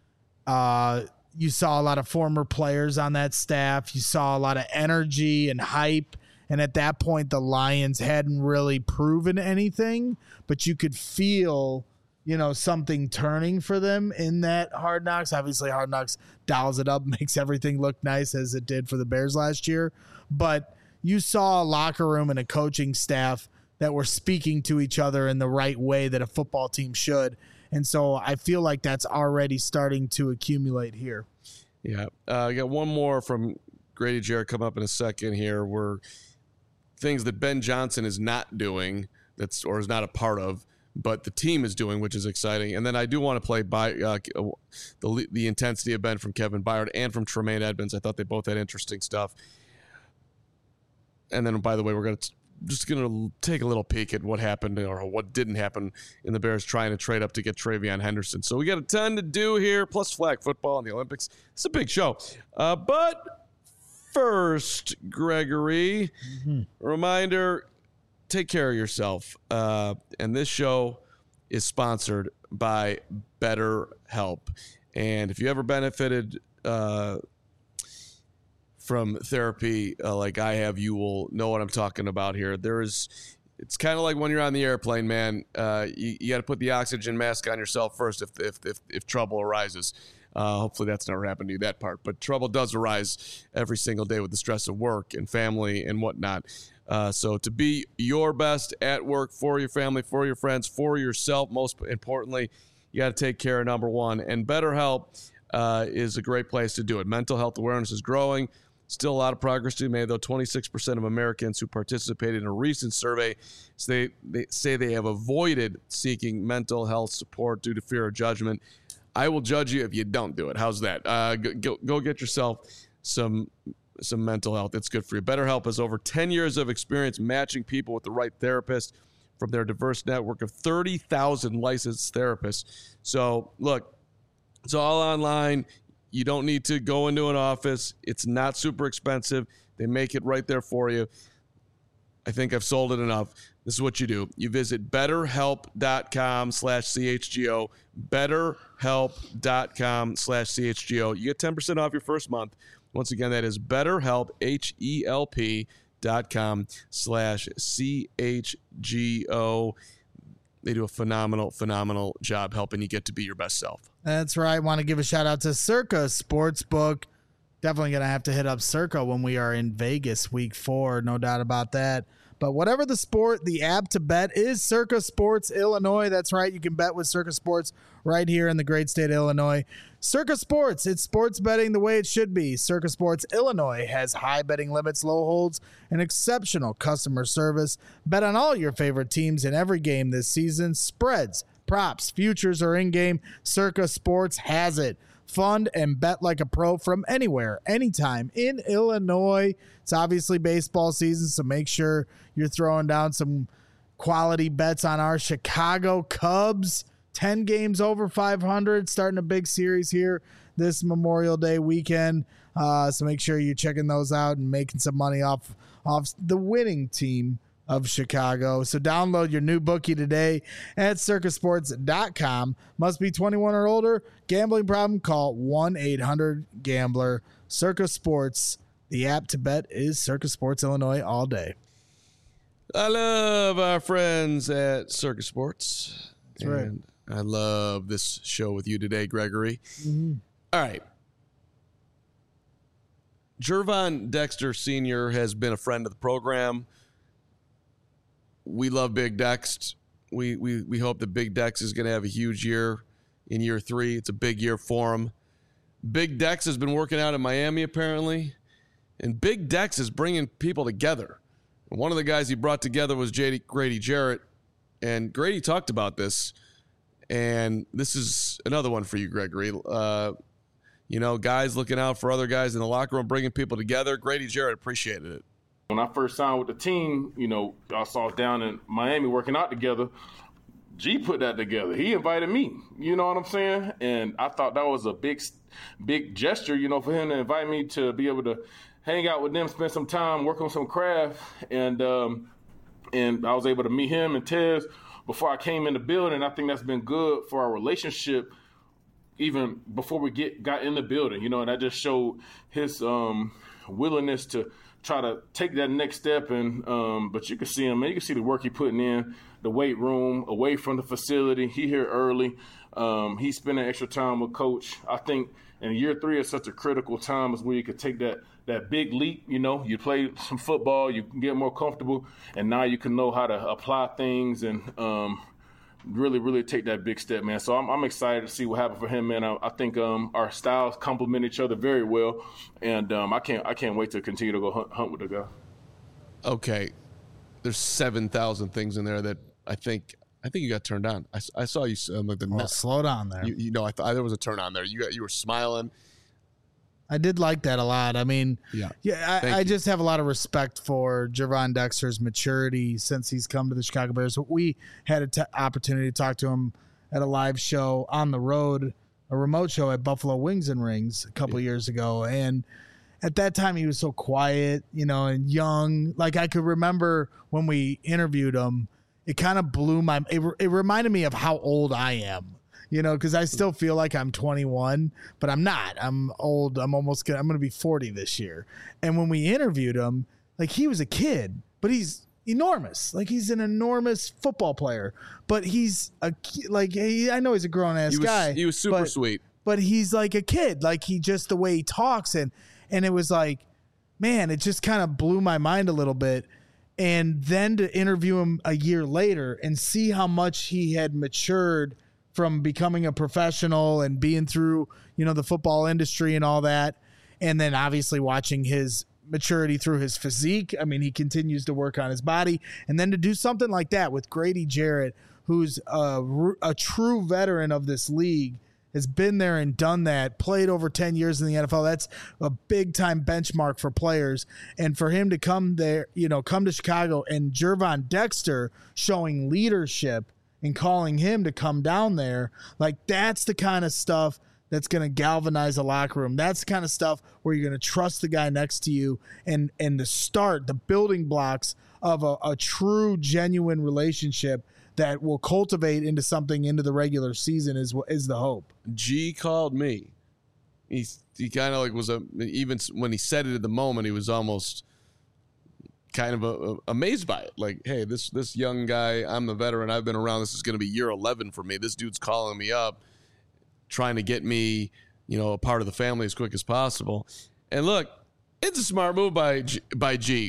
uh, you saw a lot of former players on that staff. You saw a lot of energy and hype. And at that point, the Lions hadn't really proven anything, but you could feel, you know, something turning for them in that Hard Knocks. Obviously, Hard Knocks dials it up, makes everything look nice as it did for the Bears last year. But you saw a locker room and a coaching staff that were speaking to each other in the right way that a football team should. And so I feel like that's already starting to accumulate here. Yeah. Uh, I got one more from Grady Jarrett coming up in a second here. We're things that Ben Johnson is not doing that's or is not a part of, but the team is doing, which is exciting. And then I do want to play by uh, the the intensity of Ben from Kevin Byard and from Tremaine Edmonds. I thought they both had interesting stuff. And then, by the way, we're going to just going to take a little peek at what happened or what didn't happen in the Bears trying to trade up to get TreVeyon Henderson. So we got a ton to do here, plus flag football and the Olympics. It's a big show. Uh, but first, Gregory, mm-hmm. reminder, take care of yourself. Uh, and this show is sponsored by BetterHelp. And if you ever benefited uh, from therapy uh, like I have, you will know what I'm talking about here. There is, it's kind of like when you're on the airplane, man. Uh, you you got to put the oxygen mask on yourself first if if if, if trouble arises. Uh, hopefully that's never happened to you, that part. But trouble does arise every single day with the stress of work and family and whatnot. Uh, so to be your best at work, for your family, for your friends, for yourself, most importantly, you got to take care of number one. And BetterHelp uh, is a great place to do it. Mental health awareness is growing. Still a lot of progress to be made, though. twenty-six percent of Americans who participated in a recent survey say they say they have avoided seeking mental health support due to fear of judgment. I will judge you if you don't do it. How's that? Uh, go, go get yourself some some mental health. It's good for you. BetterHelp has over ten years of experience matching people with the right therapist from their diverse network of thirty thousand licensed therapists. So, look, it's all online. You don't need to go into an office. It's not super expensive. They make it right there for you. I think I've sold it enough. This is what you do. You visit betterhelp.com slash CHGO, betterhelp.com slash CHGO. You get ten percent off your first month. Once again, that is betterhelp, H-E-L-P dot com slash C-H-G-O. They do a phenomenal, phenomenal job helping you get to be your best self. That's right. Want to give a shout out to Circa Sportsbook. Definitely going to have to hit up Circa when we are in Vegas week four. No doubt about that. But whatever the sport, the app to bet is Circa Sports Illinois. That's right. You can bet with Circa Sports right here in the great state of Illinois. Circa Sports, it's sports betting the way it should be. Circa Sports Illinois has high betting limits, low holds, and exceptional customer service. Bet on all your favorite teams in every game this season. Spreads, props, futures, or in-game, Circa Sports has it. Fund and bet like a pro from anywhere, anytime in Illinois. It's obviously baseball season, so make sure you're throwing down some quality bets on our Chicago Cubs. ten games over five hundred, starting a big series here this Memorial Day weekend. Uh, so make sure you're checking those out and making some money off, off the winning team of Chicago. So download your new bookie today at circa sports dot com. Must be twenty-one or older. Gambling problem? Call one eight hundred gambler. Circa Sports. The app to bet is Circa Sports Illinois all day. I love our friends at Circa Sports. That's right. And I love this show with you today, Gregory. Mm-hmm. All right. Gervon Dexter Senior has been a friend of the program. We love Big Dex. We we we hope that Big Dex is going to have a huge year in year three. It's a big year for him. Big Dex has been working out in Miami, apparently. And Big Dex is bringing people together. And one of the guys he brought together was J D, Grady Jarrett. And Grady talked about this. And this is another one for you, Gregory. Uh, you know, guys looking out for other guys in the locker room, bringing people together. Grady Jarrett appreciated it. When I first signed with the team, you know, I saw down in Miami working out together. G put that together. He invited me, you know what I'm saying? And I thought that was a big, big gesture, you know, for him to invite me to be able to hang out with them, spend some time, work on some craft. And um, and I was able to meet him and Tez before I came in the building. I think that's been good for our relationship even before we get got in the building, you know, and that just showed his um, willingness to try to take that next step. And um, but you can see him, man. You can see the work he putting in, the weight room, away from the facility. He here early. Um, he's spending extra time with Coach. I think in year three is such a critical time is where you could take that that big leap. You know, you play some football, you can get more comfortable, and now you can know how to apply things and um, really, really take that big step, man. So I'm, I'm excited to see what happens for him, man. I, I think um, our styles complement each other very well, and um, I can't I can't wait to continue to go hunt, hunt with the guy. Okay, there's seven thousand things in there that I think I think you got turned on. I, I saw you. Um, like the well, net. slow down there. You, you know, I thought there was a turn on there. You got you were smiling. I did like that a lot. I mean, Yeah. yeah, Thank I, I you. just have a lot of respect for Gervon Dexter's maturity since he's come to the Chicago Bears. We had an t- opportunity to talk to him at a live show on the road, a remote show at Buffalo Wings and Rings a couple Yeah. years ago. And at that time, he was so quiet, you know, and young. Like, I could remember when we interviewed him, it kind of blew my it, it reminded me of how old I am. You know, because I still feel like I'm twenty-one, but I'm not. I'm old. I'm almost gonna, I'm going to be forty this year. And when we interviewed him, like, he was a kid, but he's enormous. Like, he's an enormous football player. But he's a ki- like he, I know he's a grown ass He was, guy. he was super but, sweet. but he's like a kid. Like, he just the way he talks and and it was like, man, it just kind of blew my mind a little bit. And then to interview him a year later and see how much he had matured from becoming a professional and being through, you know, the football industry and all that. And then obviously watching his maturity through his physique. I mean, he continues to work on his body. And then to do something like that with Grady Jarrett, who's a, a true veteran of this league, has been there and done that, played over ten years in the N F L. That's a big time benchmark for players. And for him to come there, you know, come to Chicago and Gervon Dexter showing leadership and calling him to come down there, like, that's the kind of stuff that's going to galvanize a locker room. That's the kind of stuff where you're going to trust the guy next to you and and to start the building blocks of a, a true, genuine relationship that will cultivate into something into the regular season is is the hope. G called me. He he kind of like was a even when he said it at the moment, he was almost kind of a, a, amazed by it. Like, hey, this this young guy, I'm the veteran, I've been around. This is going to be year eleven for me. This dude's calling me up, trying to get me, you know, a part of the family as quick as possible. And look, it's a smart move by G, by G.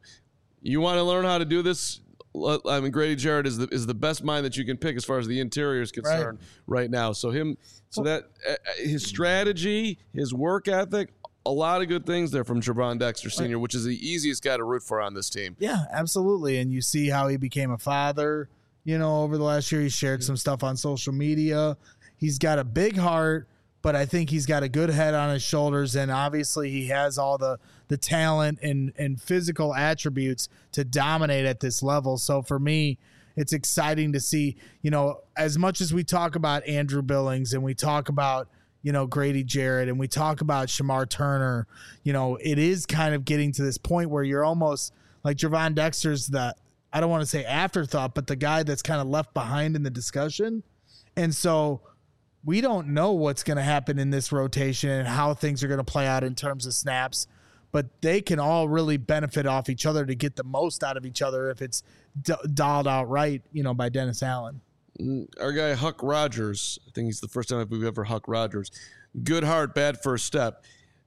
You want to learn how to do this? I mean, Grady Jarrett is the is the best mind that you can pick as far as the interior is concerned right, right now. So him, so that uh, his strategy, his work ethic, a lot of good things there from Gervon Dexter Senior, which is the easiest guy to root for on this team. Yeah, absolutely. And you see how he became a father, you know, over the last year. He shared some stuff on social media. He's got a big heart, but I think he's got a good head on his shoulders. And obviously he has all the, the talent and, and physical attributes to dominate at this level. So for me, it's exciting to see, you know, as much as we talk about Andrew Billings and we talk about, you know, Grady Jarrett and we talk about Shamar Turner, you know, it is kind of getting to this point where you're almost like Gervon Dexter's the, I don't want to say afterthought, but the guy that's kind of left behind in the discussion. And so we don't know what's going to happen in this rotation and how things are going to play out in terms of snaps, but they can all really benefit off each other to get the most out of each other if it's d- dialed out right, you know, by Dennis Allen. Our guy Huck Rogers, I think he's the first time we've ever Huck Rogers. Good heart, bad first step.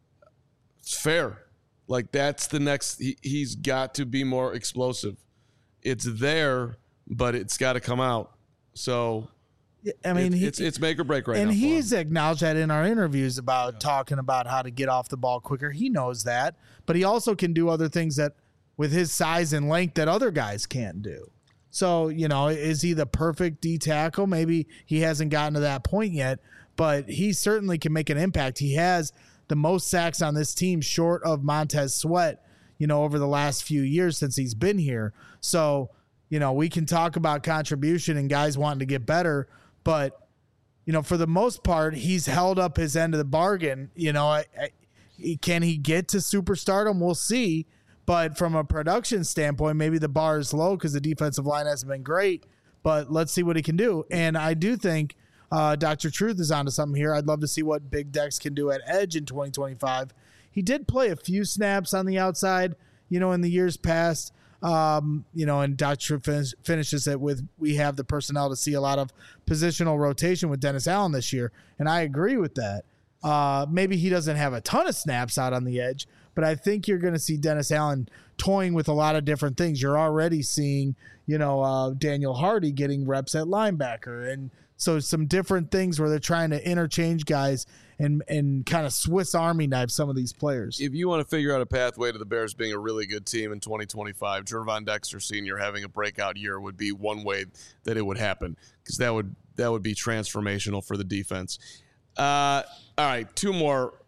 It's fair. Like, that's the next. He, he's got to be more explosive. It's there, but it's got to come out. So, I mean, it, he, it's it's make or break right and now. And for he's him. acknowledged that in our interviews about yeah. talking about how to get off the ball quicker. He knows that, but he also can do other things that, with his size and length, that other guys can't do. So, you know, is he the perfect D tackle? Maybe he hasn't gotten to that point yet, but he certainly can make an impact. He has the most sacks on this team short of Montez Sweat, you know, over the last few years since he's been here. So, you know, we can talk about contribution and guys wanting to get better, but, you know, for the most part, he's held up his end of the bargain. You know, I, I, can he get to superstardom? We'll see. But from a production standpoint, maybe the bar is low because the defensive line hasn't been great. But let's see what he can do. And I do think uh, Doctor Truth is onto something here. I'd love to see what Big Dex can do at edge in twenty twenty-five. He did play a few snaps on the outside, you know, in the years past. Um, you know, and Doctor Truth finish, finishes it with, we have the personnel to see a lot of positional rotation with Dennis Allen this year. And I agree with that. Uh, maybe he doesn't have a ton of snaps out on the edge, but I think you're going to see Dennis Allen toying with a lot of different things. You're already seeing, you know, uh, Daniel Hardy getting reps at linebacker. And so some different things where they're trying to interchange guys and, and kind of Swiss Army knife some of these players. If you want to figure out a pathway to the Bears being a really good team in twenty twenty-five, Gervon Dexter Senior having a breakout year would be one way that it would happen, because that would, that would be transformational for the defense. Uh, all right, two more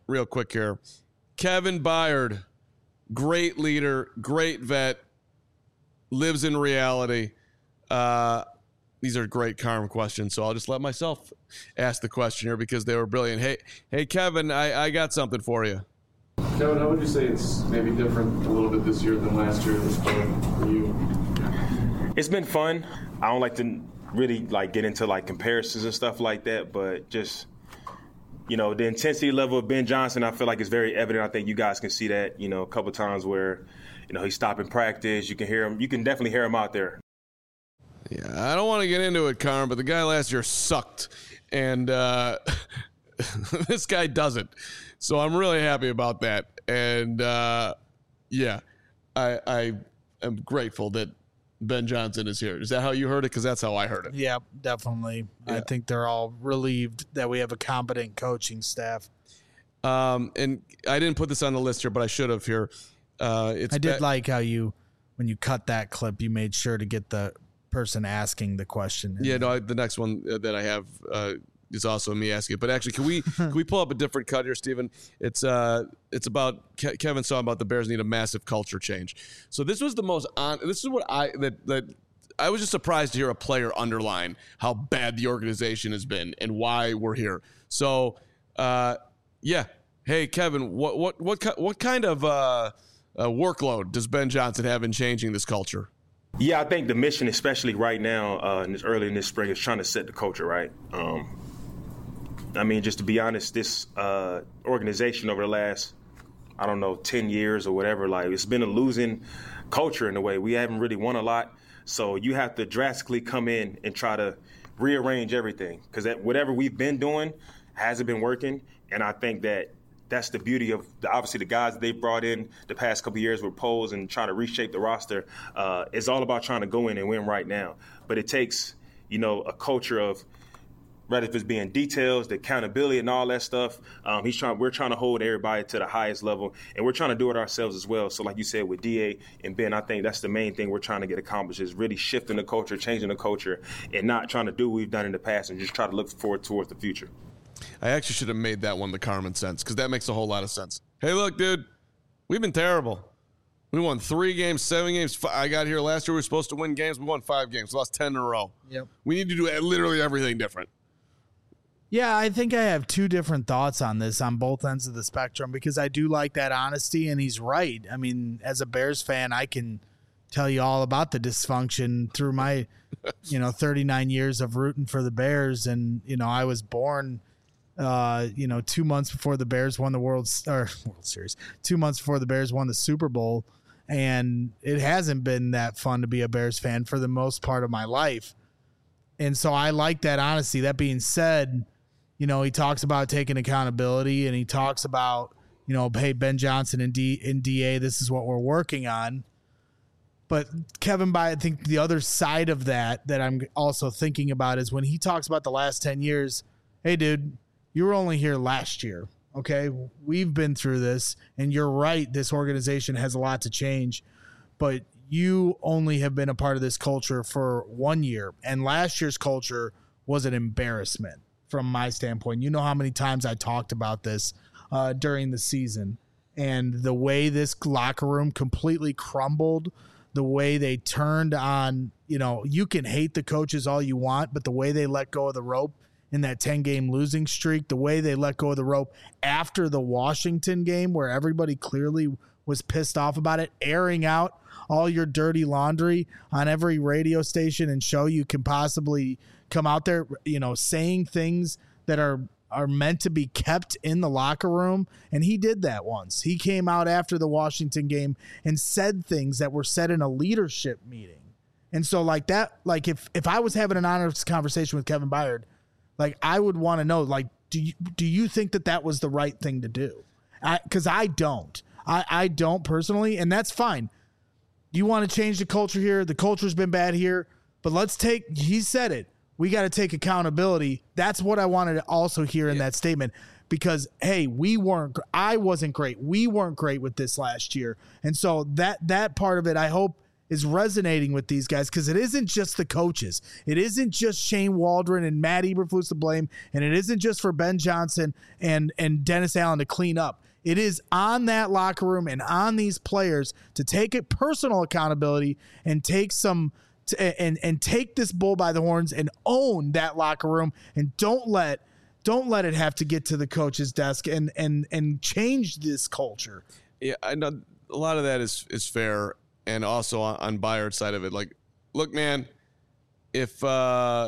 real quick here. Kevin Byard, great leader, great vet, lives in reality. Uh, these are great Carm questions, so I'll just let myself ask the question here because they were brilliant. Hey, hey, Kevin, I, I got something for you. Kevin, how would you say it's maybe different a little bit this year than last year this spring for you? It's been fun. I don't like to really like get into like comparisons and stuff like that, but just, you know, the intensity level of Ben Johnson, I feel like is very evident. I think you guys can see that, you know, a couple of times where, you know, he's stopping practice. You can hear him. You can definitely hear him out there. Yeah, I don't want to get into it, Carm, but the guy last year sucked, and uh, this guy doesn't. So I'm really happy about that. And, uh, yeah, I, I am grateful that Ben Johnson is here. Is that how you heard it? Because that's how I heard it. Yeah, definitely. Yeah. I think they're all relieved that we have a competent coaching staff. Um, and I didn't put this on the list here, but I should have here. Uh, it's I did be- like how you, when you cut that clip, you made sure to get the person asking the question. Yeah, no, I, the next one that I have uh, is also me asking it. But actually, can we can we pull up a different cut here, Stephen? It's uh, it's about Ke- Kevin saw about the Bears need a massive culture change. So this was the most on. This is what I that that I was just surprised to hear a player underline how bad the organization has been and why we're here. So uh, yeah, hey Kevin, what what what what kind of uh, uh, workload does Ben Johnson have in changing this culture? Yeah, I think the mission, especially right now, uh, in this, early in this spring, is trying to set the culture right. Um, I mean, just to be honest, this uh, organization over the last, I don't know, ten years or whatever, like it's been a losing culture in a way. We haven't really won a lot. So you have to drastically come in and try to rearrange everything because whatever we've been doing hasn't been working. And I think that that's the beauty of the, obviously the guys that they brought in the past couple of years with polls and trying to reshape the roster. Uh, it's all about trying to go in and win right now. But it takes, you know, a culture of, rather if it's being details, the accountability and all that stuff. Um, he's trying. We're trying to hold everybody to the highest level, and we're trying to do it ourselves as well. So like you said with D A and Ben, I think that's the main thing we're trying to get accomplished is really shifting the culture, changing the culture, and not trying to do what we've done in the past and just try to look forward towards the future. I actually should have made that one the Carmen sense because that makes a whole lot of sense. Hey, look, dude, we've been terrible. We won three games, seven games. I got here last year. We were supposed to win games. We won five games. We lost ten in a row. Yep. We need to do literally everything different. Yeah, I think I have two different thoughts on this on both ends of the spectrum because I do like that honesty, and he's right. I mean, as a Bears fan, I can tell you all about the dysfunction through my, you know, thirty-nine years of rooting for the Bears, and you know, I was born, uh, you know, two months before the Bears won the World or World Series, two months before the Bears won the Super Bowl, and it hasn't been that fun to be a Bears fan for the most part of my life, and so I like that honesty. That being said, you know, he talks about taking accountability, and he talks about, you know, hey, Ben Johnson and D and D A, this is what we're working on. But Kevin, by I think the other side of that that I'm also thinking about is when he talks about the last ten years. Hey, dude, you were only here last year. Okay, we've been through this, and you're right. This organization has a lot to change, but you only have been a part of this culture for one year, and last year's culture was an embarrassment. From my standpoint, you know how many times I talked about this uh, during the season and the way this locker room completely crumbled, the way they turned on, you know, you can hate the coaches all you want, but the way they let go of the rope in that ten game losing streak, the way they let go of the rope after the Washington game where everybody clearly was pissed off about it, airing out all your dirty laundry on every radio station and show you can possibly come out there, you know, saying things that are are meant to be kept in the locker room. And he did that once. He came out after the Washington game and said things that were said in a leadership meeting. And so like that, like if, if I was having an honest conversation with Kevin Byard, like I would want to know, like, do you, do you think that that was the right thing to do? I, cause I don't, I, I don't personally, and that's fine. You want to change the culture here. The culture's been bad here, but let's take, he said it. We got to take accountability. That's what I wanted to also hear in yeah. that statement because, hey, we weren't, I wasn't great. We weren't great with this last year. And so that, that part of it, I hope is resonating with these guys, because it isn't just the coaches. It isn't just Shane Waldron and Matt Eberflus to blame, and it isn't just for Ben Johnson and, and Dennis Allen to clean up. It is on that locker room and on these players to take it personal accountability and take some t- and and take this bull by the horns and own that locker room, and don't let don't let it have to get to the coach's desk and and and change this culture. Yeah, I know a lot of that is is fair. And also on, on Bayard's side of it, like, look, man, if uh,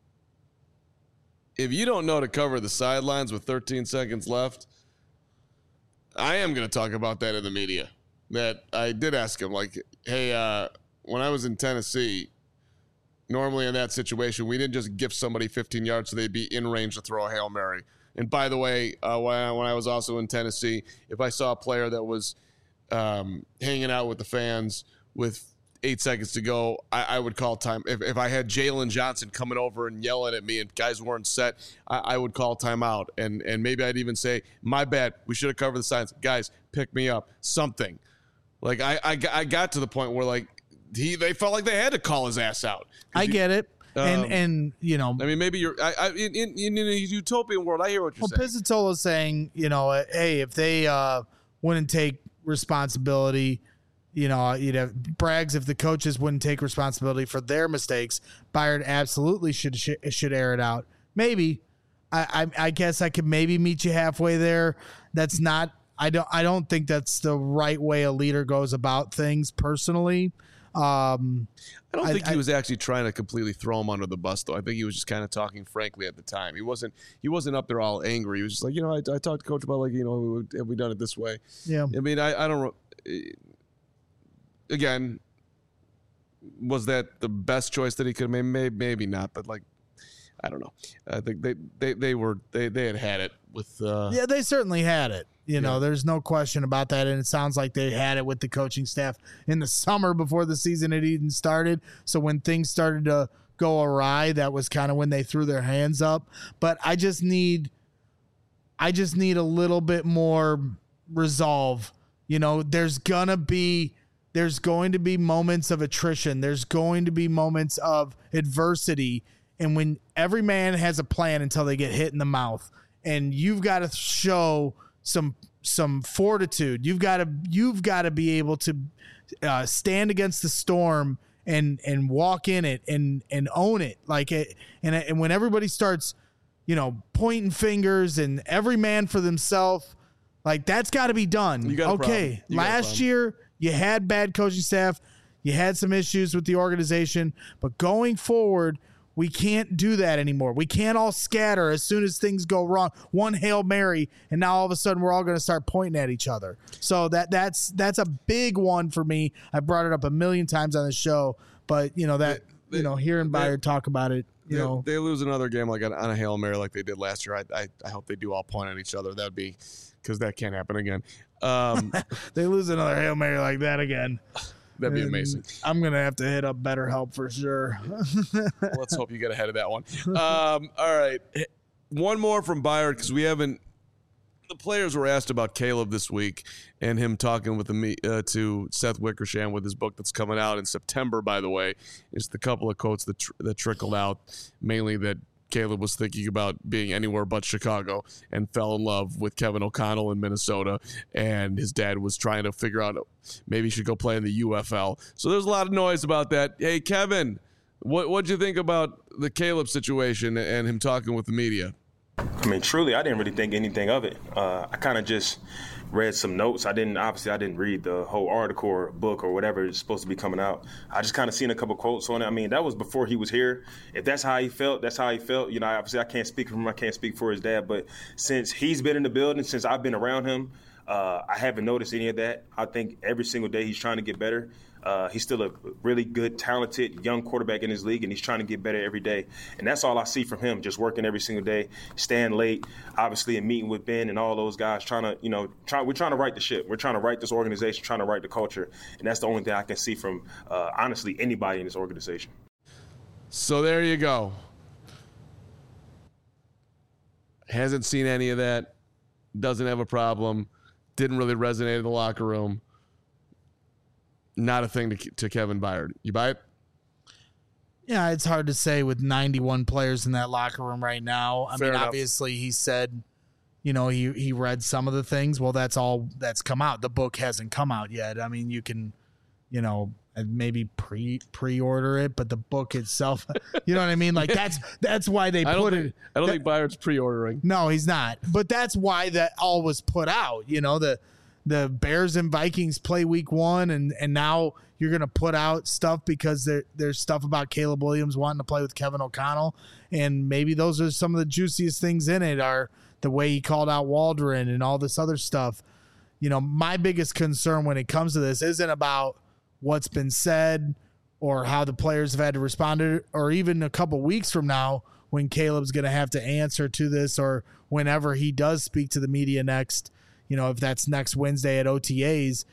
if you don't know to cover the sidelines with thirteen seconds left, I am going to talk about that in the media. That I did ask him, like, hey, uh, when I was in Tennessee, normally in that situation, we didn't just gift somebody fifteen yards so they'd be in range to throw a Hail Mary. And by the way, uh, when, I, when I was also in Tennessee, if I saw a player that was um, hanging out with the fans with eight seconds to go, I, I would call time. If, if I had Jalen Johnson coming over and yelling at me and guys weren't set, I, I would call timeout. And and maybe I'd even say, my bad, we should have covered the signs. Guys, pick me up, something. Like, I, I, I got to the point where, like, he they felt like they had to call his ass out. I you, get it. Um, and, and you know. I mean, maybe you're I, I, in, in, in a utopian world, I hear what you're well, saying. Pizzatola's saying, you know, hey, if they uh, wouldn't take responsibility, you know, you'd have Braggs, if the coaches wouldn't take responsibility for their mistakes, Bayard absolutely should should air it out. Maybe. I, I I guess I could maybe meet you halfway there. That's not I don't I don't think that's the right way a leader goes about things personally. Um, I don't think I, he was actually trying to completely throw him under the bus, though. I think he was just kind of talking frankly at the time. He wasn't he wasn't up there all angry. He was just like, you know, I, I talked to Coach about, like, you know, have we done it this way? Yeah. I mean, I, I don't again, was that the best choice that he could have made? Maybe, maybe not, but, like, I don't know. I think they, they, they were they, they had had it with uh, yeah, they certainly had it. You know, yeah. There's no question about that. And it sounds like they had it with the coaching staff in the summer before the season had even started. So when things started to go awry, that was kind of when they threw their hands up. But I just need, I just need a little bit more resolve. You know, there's gonna be, there's going to be moments of attrition. There's going to be moments of adversity. And when every man has a plan until they get hit in the mouth, and you've got to show some some fortitude. You've got to you've got to be able to uh, stand against the storm and and walk in it and and own it. Like it, and and when everybody starts, you know, pointing fingers and every man for themselves, like that's got to be done. You got a okay, you got a last year you had bad coaching staff, you had some issues with the organization, but going forward, we can't do that anymore. We can't all scatter as soon as things go wrong. One Hail Mary, and now all of a sudden we're all going to start pointing at each other. So that that's that's a big one for me. I brought it up a million times on the show, but you know that They- you know hearing they- Bayard talk about it, you they, know, they lose another game like on, on a Hail Mary like they did last year. I I, I hope they do all point at each other. That would be because that can't happen again. Um, they lose another Hail Mary like that again. that'd be And amazing. I'm gonna have to hit up BetterHelp for sure. Let's hope you get ahead of that one. Um, all right. One more from Bayard because we haven't. The players were asked about Caleb this week and him talking with the uh, to Seth Wickersham with his book that's coming out in September, by the way. It's the couple of quotes that, tr- that trickled out, mainly that Caleb was thinking about being anywhere but Chicago and fell in love with Kevin O'Connell in Minnesota, and his dad was trying to figure out maybe he should go play in the U F L. So there's a lot of noise about that. Hey, Kevin, what what'd you think about the Caleb situation and him talking with the media? I mean, truly, I didn't really think anything of it. Uh, I kind of just read some notes. I didn't, obviously, I didn't read the whole article or book or whatever is supposed to be coming out. I just kind of seen a couple quotes on it. I mean, that was before he was here. If that's how he felt, that's how he felt. You know, obviously, I can't speak for him. I can't speak for his dad. But since he's been in the building, since I've been around him, uh, I haven't noticed any of that. I think every single day he's trying to get better. Uh, he's still a really good, talented, young quarterback in his league, and he's trying to get better every day. And that's all I see from him, just working every single day, staying late, obviously, and meeting with Ben and all those guys, trying to, you know, try, we're trying to right the ship. We're trying to right this organization, trying to right the culture. And that's the only thing I can see from, uh, honestly, anybody in this organization. So there you go. Hasn't seen any of that. Doesn't have a problem. Didn't really resonate in the locker room. not a thing to, to Kevin Byard. You buy it? Yeah, it's hard to say with ninety-one players in that locker room right now. I Fair mean, enough. obviously he said, you know, he, he read some of the things. Well, that's all that's come out. The book hasn't come out yet. I mean, you can, you know, maybe pre pre-order it, but the book itself, you know what I mean? Like that's that's why they I don't put think, it. I don't that, think Byard's pre-ordering. No, he's not. But that's why that all was put out. You know, the the Bears and Vikings play week one, and and now you're going to put out stuff because there there's stuff about Caleb Williams wanting to play with Kevin O'Connell, and maybe those are some of the juiciest things in it are the way he called out Waldron and all this other stuff. You know, my biggest concern when it comes to this isn't about what's been said or how the players have had to respond to it, or even a couple weeks from now when Caleb's going to have to answer to this, or whenever he does speak to the media next, you know, if that's next Wednesday at O T As.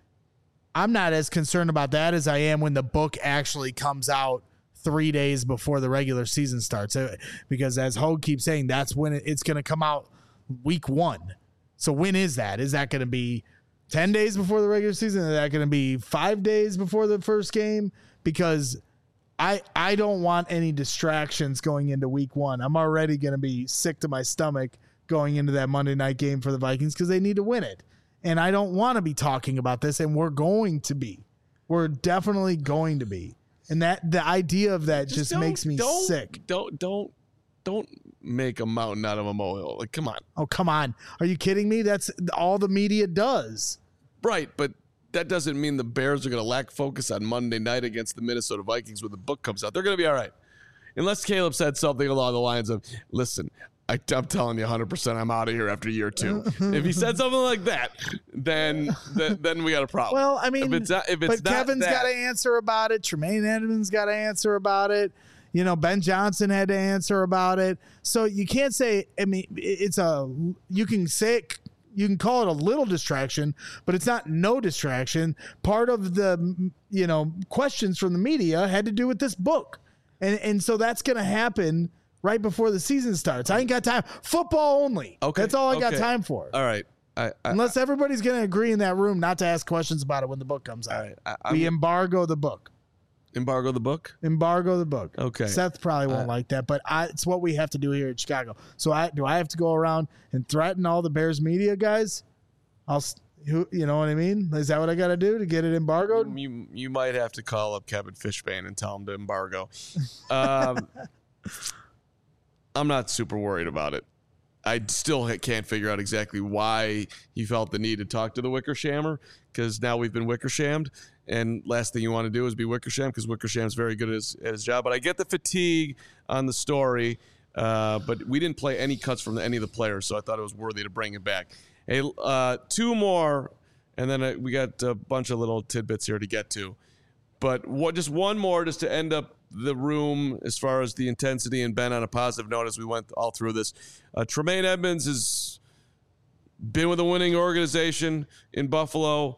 I'm not as concerned about that as I am when the book actually comes out three days before the regular season starts. Because as Hogue keeps saying, that's when it's going to come out week one. So when is that? Is that going to be ten days before the regular season? Is that going to be five days before the first game? Because I I don't want any distractions going into week one. I'm already going to be sick to my stomach going into that Monday night game for the Vikings because they need to win it. And I don't want to be talking about this, and we're going to be. We're definitely going to be. And that the idea of that just, just makes me don't, sick. Don't don't don't make a mountain out of a molehill. Like, come on. Oh, come on. Are you kidding me? That's all the media does. Right, but that doesn't mean the Bears are going to lack focus on Monday night against the Minnesota Vikings when the book comes out. They're going to be all right. Unless Caleb said something along the lines of, listen, I, I'm telling you one hundred percent I'm out of here after year two. If he said something like that, then then, then we got a problem. Well, I mean, if it's not, if it's but not Kevin's got to answer about it. Tremaine Edmonds got to answer about it. You know, Ben Johnson had to answer about it. So you can't say, I mean, it's a, you can say it, you can call it a little distraction, but it's not no distraction. Part of the, you know, questions from the media had to do with this book. And and so that's going to happen right before the season starts. I ain't got time. Football only. Okay. That's all I okay. got time for. All right. I, I, Unless everybody's going to agree in that room not to ask questions about it when the book comes out. all right. I, We I'm- embargo the book. embargo the book? Embargo the book. Okay. Seth probably won't Uh, like that, but I, it's what we have to do here in Chicago. So I do I have to go around and threaten all the Bears media guys? I'll, s- who, you know what I mean? Is that what I got to do to get it embargoed? You you might have to call up Kevin Fishbane and tell him to embargo. Um, I'm not super worried about it. I still ha- can't figure out exactly why he felt the need to talk to the Wickershammer, because now we've been Wickershammed, and last thing you want to do is be Wickersham, because Wickersham's very good at his, at his job. But I get the fatigue on the story, uh, but we didn't play any cuts from any of the players, so I thought it was worthy to bring it back. Hey, uh, two more, and then uh, we got a bunch of little tidbits here to get to. But what, just one more just to end up the room as far as the intensity, and Ben on a positive note as we went all through this. Uh, Tremaine Edmonds has been with a winning organization in Buffalo.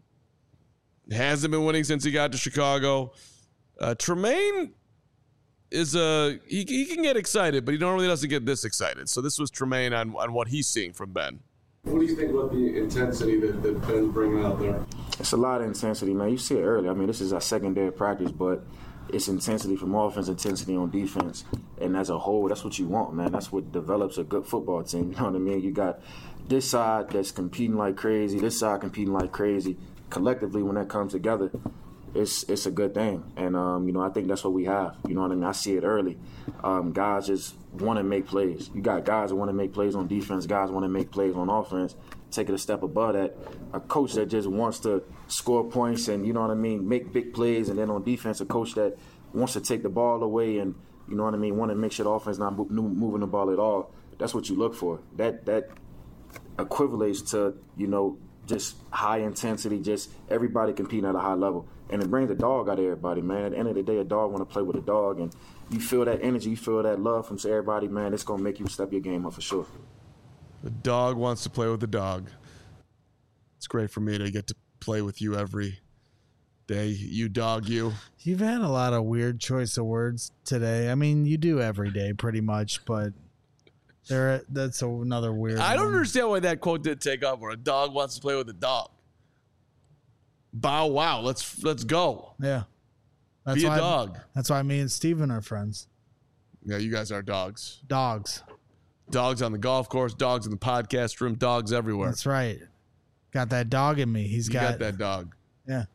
Hasn't been winning since he got to Chicago. Uh, Tremaine is a he, he can get excited, but he normally doesn't get this excited. So this was Tremaine on, on what he's seeing from Ben. What do you think about the intensity that, that Ben's bringing out there? It's a lot of intensity, man. You see it early. I mean, this is our second day of practice, but it's intensity from offense, intensity on defense. And as a whole, that's what you want, man. That's what develops a good football team. You know what I mean? You got this side that's competing like crazy, this side competing like crazy. Collectively, when that comes together, it's it's a good thing. And, um, you know, I think that's what we have. You know what I mean? I see it early. Um, guys just want to make plays. You got guys that want to make plays on defense, guys want to make plays on offense. Take it a step above that. A coach that just wants to score points and, you know what I mean, make big plays. And then on defense, a coach that wants to take the ball away and, you know what I mean, want to make sure the offense not mo- moving the ball at all. That's what you look for. That that equivalates to, you know, just high intensity, just everybody competing at a high level. And it brings the dog out of everybody, man. At the end of the day, a dog want to play with a dog. And you feel that energy, you feel that love from everybody, man. It's going to make you step your game up for sure. The dog wants to play with the dog. It's great for me to get to play with you every day. You dog, you. You've had a lot of weird choice of words today. I mean, you do every day pretty much, but there that's another weird I don't one. understand why that quote didn't take off, where a dog wants to play with a dog. bow wow. Let's let's go. Yeah. That's Be a why dog. That's why me and Steven are friends. Yeah, you guys are dogs. Dogs. Dogs on the golf course, dogs in the podcast room, dogs everywhere. That's right. Got that dog in me. He's you got, got that dog. Yeah.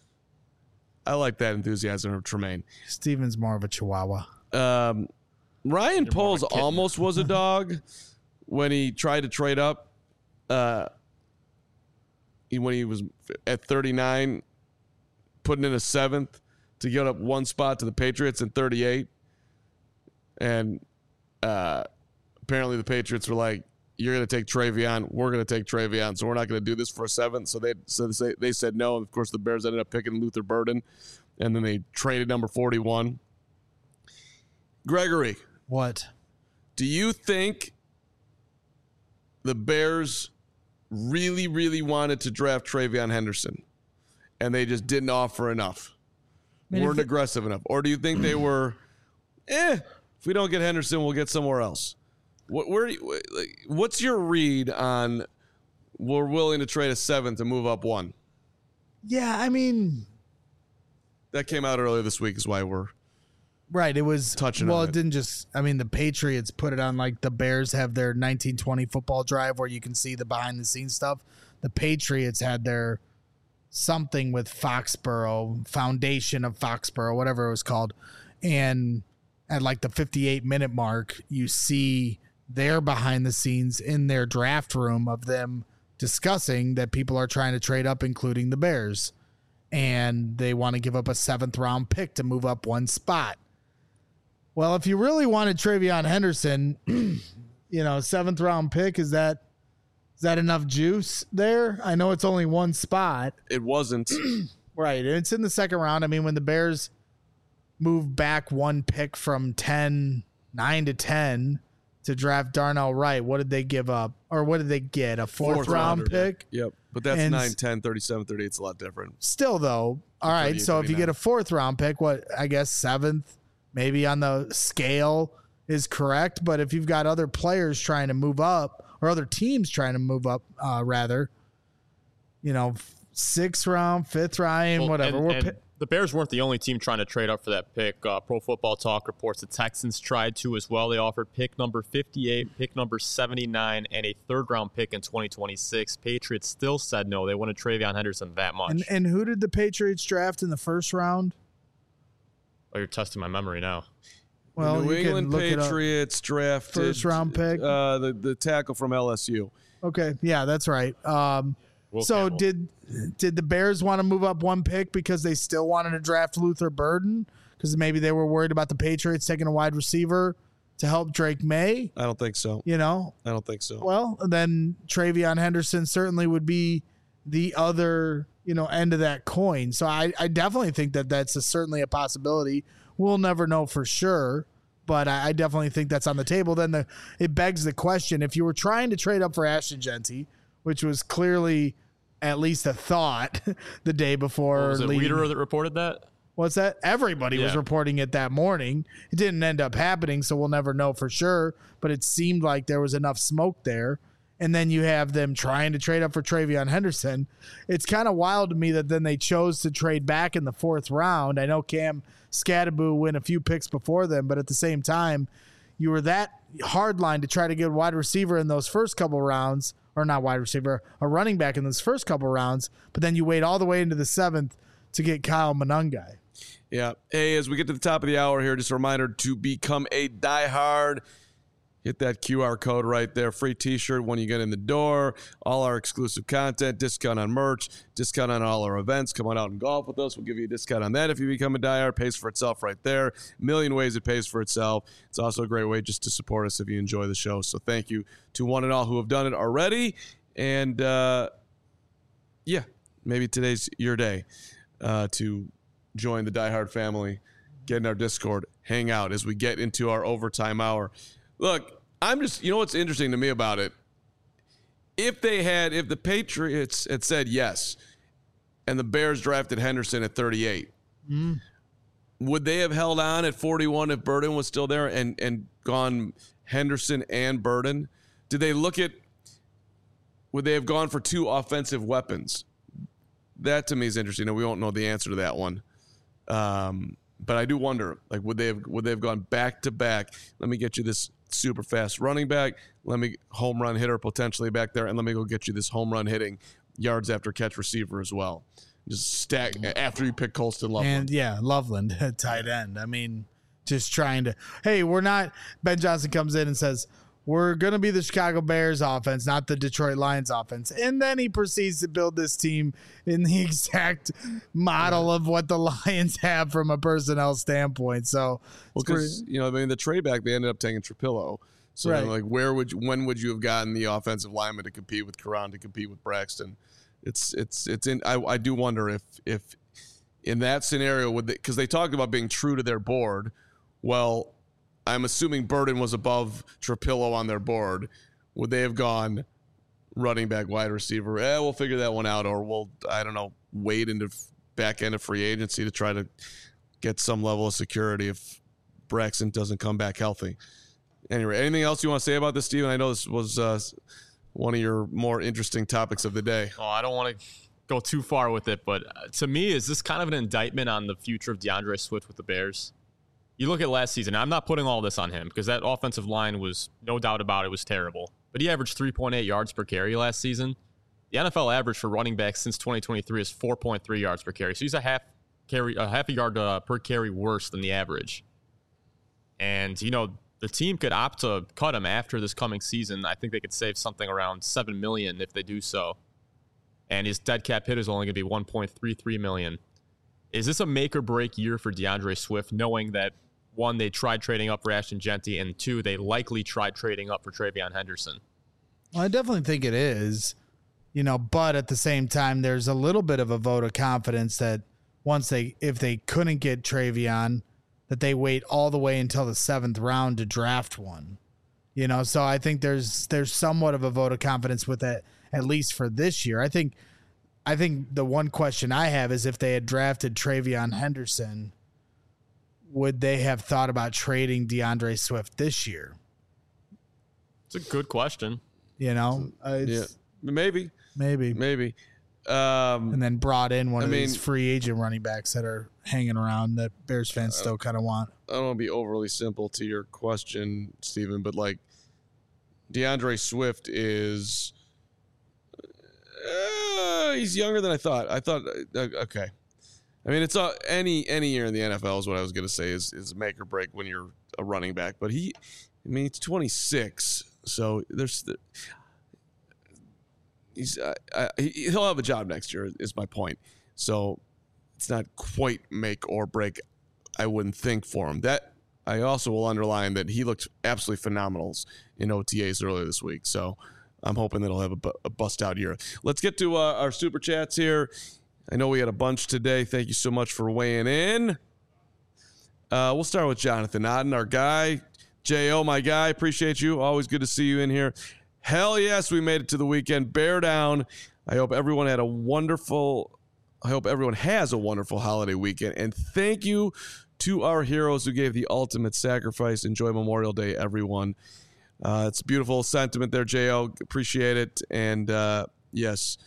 I like that enthusiasm of Tremaine. Steven's more of a chihuahua. Um, Ryan You're more Poles of a kitten. almost was a dog when he tried to trade up. Uh, he, when he was at thirty-nine, putting in a seventh to get up one spot to the Patriots in thirty-eight. And uh, apparently the Patriots were like, you're going to take Travion. We're going to take Travion. So we're not going to do this for a seventh. So they so they, they said no. And of course, the Bears ended up picking Luther Burden. And then they traded number forty-one. Gregory, What? do you think the Bears really, really wanted to draft Travion Henderson and they just didn't offer enough? mean, weren't if it- aggressive enough? Or do you think they were, eh, if we don't get Henderson, we'll get somewhere else? What, where, do you- like, what's your read on we're willing to trade a seventh to move up one? Yeah, I mean, That came out earlier this week is why we're right. It was Touching Well, on it it. didn't just. I mean, the Patriots put it on like the Bears have their nineteen twenty football drive where you can see the behind the scenes stuff. The Patriots had their something with Foxborough, Foundation of Foxborough, whatever it was called, and at like the fifty-eight minute mark, you see their behind the scenes in their draft room of them discussing that people are trying to trade up, including the Bears, and they want to give up a seventh round pick to move up one spot. Well, if you really wanted Travion Henderson, you know, seventh round pick, is that is that enough juice there? I know it's only one spot. it wasn't. Right. It's in the second round. I mean, when the Bears moved back one pick from ten, nine to ten to draft Darnell Wright, what did they give up? Or what did they get? A fourth, Fourth round rounder, pick? Yep. But that's And- nine, ten, thirty-seven, thirty-eight. It's a lot different. Still, though, all right. thirty-eight, So if you thirty-nine. get a fourth round pick, what, I guess seventh, maybe on the scale is correct. But if you've got other players trying to move up or other teams trying to move up, uh, rather, you know, sixth round, fifth round, Well, whatever. and- We're and pi- the Bears weren't the only team trying to trade up for that pick. Uh, Pro Football Talk reports the Texans tried to as well. They offered pick number fifty-eight, pick number seventy-nine, and a third-round pick in twenty twenty-six. Patriots still said no. They wanted Travion Henderson that much. and, and who did the Patriots draft in the first round? oh, you're testing my memory now. Well, New you can England look it up. Patriots drafted First round pick? uh, the the tackle from L S U. Okay, yeah, that's right. Um, Will so Campbell. did did the Bears want to move up one pick because they still wanted to draft Luther Burden because maybe they were worried about the Patriots taking a wide receiver to help Drake May? I don't think so. You know, I don't think so. well, then Travion Henderson certainly would be the other, you know, end of that coin. So I, I definitely think that that's a, certainly a possibility. We'll never know for sure, but I, I definitely think that's on the table. Then the it begs the question: if you were trying to trade up for Ashton Genty, which was clearly at least a thought the day before, Was it leading- Wiederer that reported that? What's that? Everybody was Yeah. reporting it that morning. It didn't end up happening, so we'll never know for sure. But it seemed like there was enough smoke there. And then you have them trying to trade up for Travion Henderson. It's kind of wild to me that then they chose to trade back in the fourth round. I know Cam Scattaboo went a few picks before them, but at the same time, you were that hardline to try to get a wide receiver in those first couple rounds, or not wide receiver, a running back in those first couple rounds, but then you wait all the way into the seventh to get Kyle Monangai. Yeah. Hey, as we get to the top of the hour here, just a reminder to become a diehard. Hit that Q R code right there. Free t-shirt when you get in the door. All our exclusive content, discount on merch, discount on all our events. Come on out and golf with us. We'll give you a discount on that if you become a diehard. Pays for itself right there. A million ways it pays for itself. It's also a great way just to support us if you enjoy the show. So thank you to one and all who have done it already. And, uh, yeah, maybe today's your day uh, to join the diehard family, get in our Discord, hang out as we get into our overtime hour. Look, I'm just, you know what's interesting to me about it? If they had, if the Patriots had said yes, and the Bears drafted Henderson at thirty-eight, Mm. would they have held on at forty-one if Burden was still there and, and gone Henderson and Burden? Did they look at, would they have gone for two offensive weapons? that to me is interesting. Now, we won't know the answer to that one. Um, but I do wonder, like, would they have would they have gone back to back? Let me get you this super fast running back. Let me home run hitter potentially back there, and let me go get you this home run hitting yards after catch receiver as well. Just stack after you pick Colston Loveland. And yeah, Loveland at tight end. I mean, just trying to, hey, we're not, Ben Johnson comes in and says, we're going to be the Chicago Bears offense, not the Detroit Lions offense. And then he proceeds to build this team in the exact model of what the Lions have from a personnel standpoint. So, well, because, you know, I mean, the trade back, they ended up taking Trapillo. So, right. then, like, where would you, when would you have gotten the offensive lineman to compete with Karan, to compete with Braxton? It's, it's, it's in, I, I do wonder if, if in that scenario, would they, because they talked about being true to their board. Well, I'm assuming Burden was above Trapillo on their board. Would they have gone running back, wide receiver? Eh, we'll figure that one out, or we'll, I don't know, wait into back end of free agency to try to get some level of security if Braxton doesn't come back healthy. Anyway, anything else you want to say about this, Steven? I know this was uh, one of your more interesting topics of the day. Oh, I don't want to go too far with it, but to me, is this kind of an indictment on the future of DeAndre Swift with the Bears? You look at last season, I'm not putting all this on him because that offensive line was, no doubt about it, was terrible. But he averaged three point eight yards per carry last season. The N F L average for running backs since twenty twenty-three is four point three yards per carry. So he's a half carry, a half a yard uh, per carry worse than the average. And, you know, the team could opt to cut him after this coming season. I think they could save something around seven million dollars if they do so. And his dead cap hit is only going to be one point three three million dollars. Is this a make or break year for DeAndre Swift, knowing that, one, they tried trading up for Ashton Genty, and two, they likely tried trading up for Travion Henderson? Well, I definitely think it is, you know, but at the same time, there's a little bit of a vote of confidence that once they, if they couldn't get Travion, that they wait all the way until the seventh round to draft one, you know? So I think there's, there's somewhat of a vote of confidence with it, at least for this year. I think, I think the one question I have is if they had drafted Travion Henderson, would they have thought about trading DeAndre Swift this year? It's a good question. You know, uh, Yeah, maybe, maybe, maybe. Um, and then brought in one I of mean- these free agent running backs that are hanging around that Bears fans still kind of want. I don't want to be overly simple to your question, Steven, but like DeAndre Swift is uh, he's younger than I thought. I thought uh, okay. I mean, it's uh, any any year in the N F L is what I was going to say is is make or break when you're a running back. But he, I mean, it's twenty-six, so there's the, he's uh, uh, he, he'll have a job next year. Is my point. So it's not quite make or break. I wouldn't think for him. That I also will underline that he looked absolutely phenomenal in O T As earlier this week. So I'm hoping that he'll have a, bu- a bust out year. Let's get to uh, our super chats here. I know we had a bunch today. Thank you so much for weighing in. Uh, we'll start with Jonathan Otten, our guy. J O, my guy. Appreciate you. Always good to see you in here. Hell yes, we made it to the weekend. Bear down. I hope everyone had a wonderful, I hope everyone has a wonderful holiday weekend. And thank you to our heroes who gave the ultimate sacrifice. Enjoy Memorial Day, everyone. Uh, it's a beautiful sentiment there, J O. Appreciate it. And uh, yes,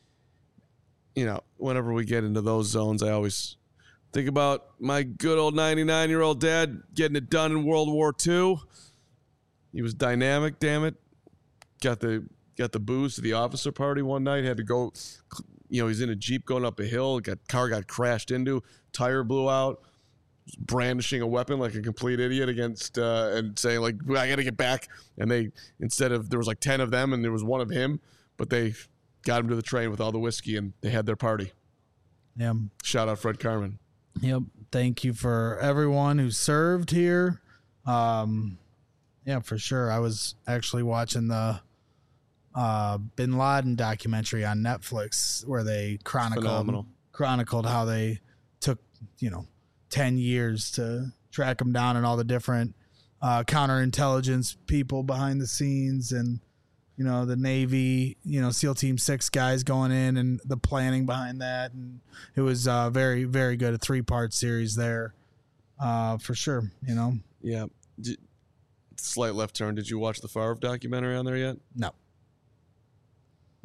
you know, whenever we get into those zones, I always think about my good old ninety-nine-year-old dad getting it done in World War Two. He was dynamic, damn it. Got the got the booze to the officer party one night. Had to go, you know, he's in a Jeep going up a hill. Got car got crashed into. Tire blew out. Brandishing a weapon like a complete idiot against uh, and saying like, I got to get back. And they, instead of, there was like ten of them and there was one of him, but they got him to the train with all the whiskey and they had their party. Yeah. Shout out Fred Carmen. Yep. Thank you for everyone who served here. Um, yeah, for sure. I was actually watching the uh, Bin Laden documentary on Netflix where they chronicled Phenomenal. chronicled how they took, you know, ten years to track him down and all the different uh, counterintelligence people behind the scenes and, you know, the Navy, you know, SEAL Team Six guys going in and the planning behind that. And it was uh, very, very good. A three part series there uh, for sure, you know? Yeah. Did, slight left turn. Did you watch the Favre documentary on there yet? No.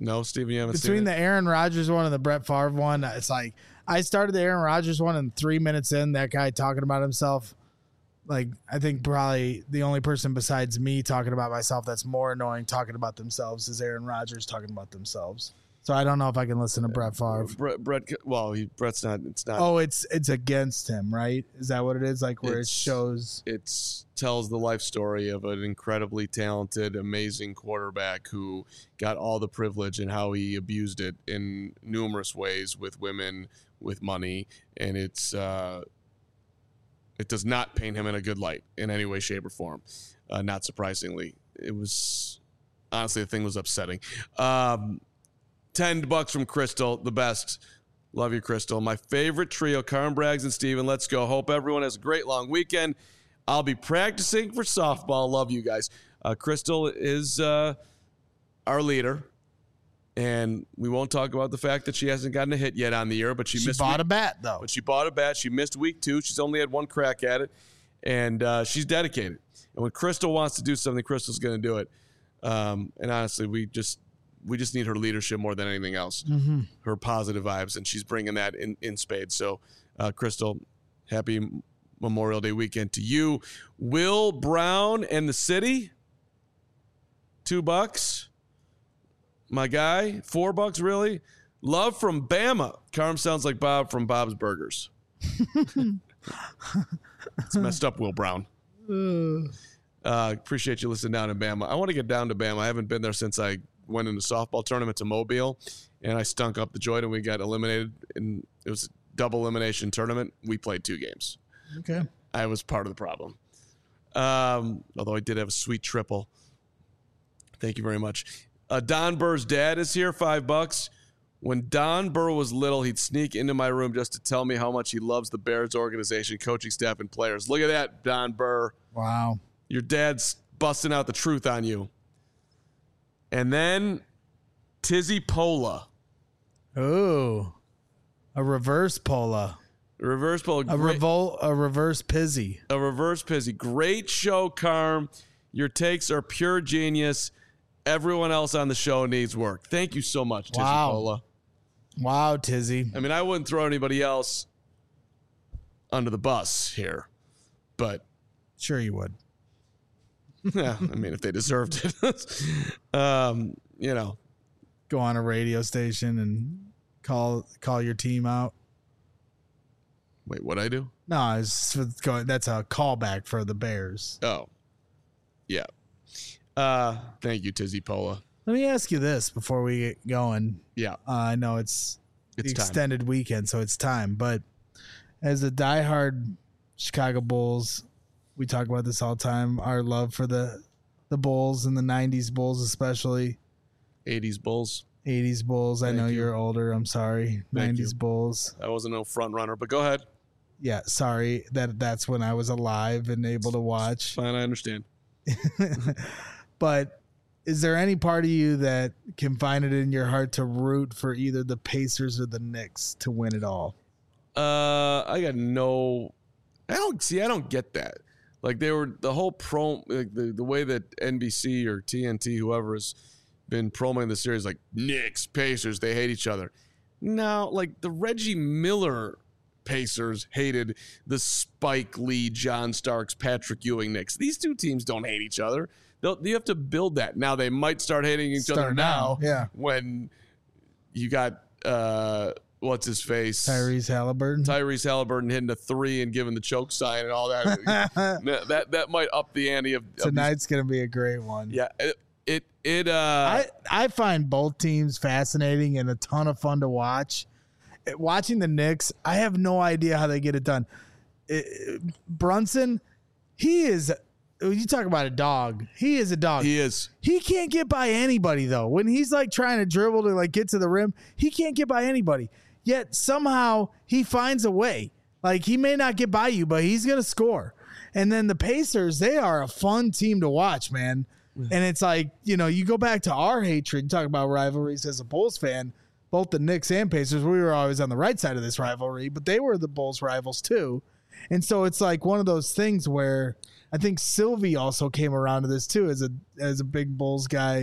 No, Steven, you haven't Between seen the it? Aaron Rodgers one and the Brett Favre one, it's like I started the Aaron Rodgers one, and three minutes in, that guy talking about himself. Like, I think probably the only person besides me talking about myself that's more annoying talking about themselves is Aaron Rodgers talking about themselves. So I don't know if I can listen to Brett Favre. Brett, Brett well, he, Brett's not. It's not. Oh, it's it's against him, right? Is that what it is? Like where it It's- shows. It tells the life story of an incredibly talented, amazing quarterback who got all the privilege and how he abused it in numerous ways with women, with money, and it's uh, it does not paint him in a good light in any way, shape, or form. Uh, not surprisingly, it was honestly the thing was upsetting. Um, Ten bucks from Crystal, the best. Love you, Crystal. My favorite trio, Carm, Braggs, and Steven. Let's go. Hope everyone has a great long weekend. I'll be practicing for softball. Love you guys. Uh, Crystal is uh, our leader, and we won't talk about the fact that she hasn't gotten a hit yet on the year, but she, She missed bought week, a bat, though. But she bought a bat. She missed week two. She's only had one crack at it, and uh, she's dedicated. And when Crystal wants to do something, Crystal's going to do it. Um, and honestly, we just we just need her leadership more than anything else. Mm-hmm. Her positive vibes, and she's bringing that in, in spades. So, uh, Crystal, happy Memorial Day weekend to you. Will Brown and the city, two bucks. My guy, four bucks, really? Love from Bama. Carm sounds like Bob from Bob's Burgers. It's messed up, Will Brown. Uh, appreciate you listening down in Bama. I want to get down to Bama. I haven't been there since I went in the softball tournament to Mobile, and I stunk up the joint, and we got eliminated. And it was a double elimination tournament. We played two games. Okay. I was part of the problem. Um, although I did have a sweet triple. Thank you very much. Uh, Don Burr's dad is here, five bucks. When Don Burr was little, he'd sneak into my room just to tell me how much he loves the Bears organization, coaching staff, and players. Look at that, Don Burr. Wow. Your dad's busting out the truth on you. And then Tizzy Pola. Ooh. A reverse Pola. Reverse Pola. A great- revol a reverse Pizzy. A reverse Pizzy. Great show, Carm. Your takes are pure genius. Everyone else on the show needs work. Thank you so much, Tizzy Wow. Pola. Wow, Tizzy. I mean, I wouldn't throw anybody else under the bus here, but Sure you would. yeah, I mean, if they deserved it, um, you know, Go on a radio station and call call your team out. wait, what I do? No, it's it's going. That's a callback for the Bears. Oh, yeah. Uh, thank you, Tizzy Pola. Let me ask you this before we get going. Yeah, Uh, I know it's, It's the time. extended weekend, so it's time. But as a diehard Chicago Bulls, we talk about this all the time. Our love for the the Bulls and the nineties Bulls, especially eighties Bulls. eighties Bulls. I Thank know you. you're older. I'm sorry. nineties you. Bulls. I wasn't no front runner, but go ahead. Yeah, sorry. That that's when I was alive and able to watch. Fine, I understand. But is there any part of you that can find it in your heart to root for either the Pacers or the Knicks to win it all? Uh, I got no. I don't see. I don't get that. Like they were the whole pro, like the the way that N B C or T N T, whoever has been promoting the series, like Knicks, Pacers, they hate each other. No, like the Reggie Miller Pacers hated the Spike Lee, John Starks, Patrick Ewing Knicks. These two teams don't hate each other. They'll, you have to build that. Now they might start hating each other Start now. now, yeah. When you got uh, what's his face, Tyrese Halliburton. Tyrese Halliburton hitting a three and giving the choke sign and all that. that that might up the ante of, of these- Tonight's going to be a great one. yeah, it it, it uh, I, I find both teams fascinating and a ton of fun to watch. Eh, Watching the Knicks, I have no idea how they get it done. Eh, Brunson, he is, you talk about a dog. He is a dog. he is. He can't get by anybody though. When he's like trying to dribble to like get to the rim, he can't get by anybody. Yet somehow he finds a way. Like he may not get by you, but he's gonna score. And then the Pacers, they are a fun team to watch, man. And it's like, you know, you go back to our hatred, talk about rivalries as a Bulls fan, both the Knicks and Pacers, we were always on the right side of this rivalry, but they were the Bulls rivals too. And so it's like one of those things where I think Sylvie also came around to this too as a as a big Bulls guy.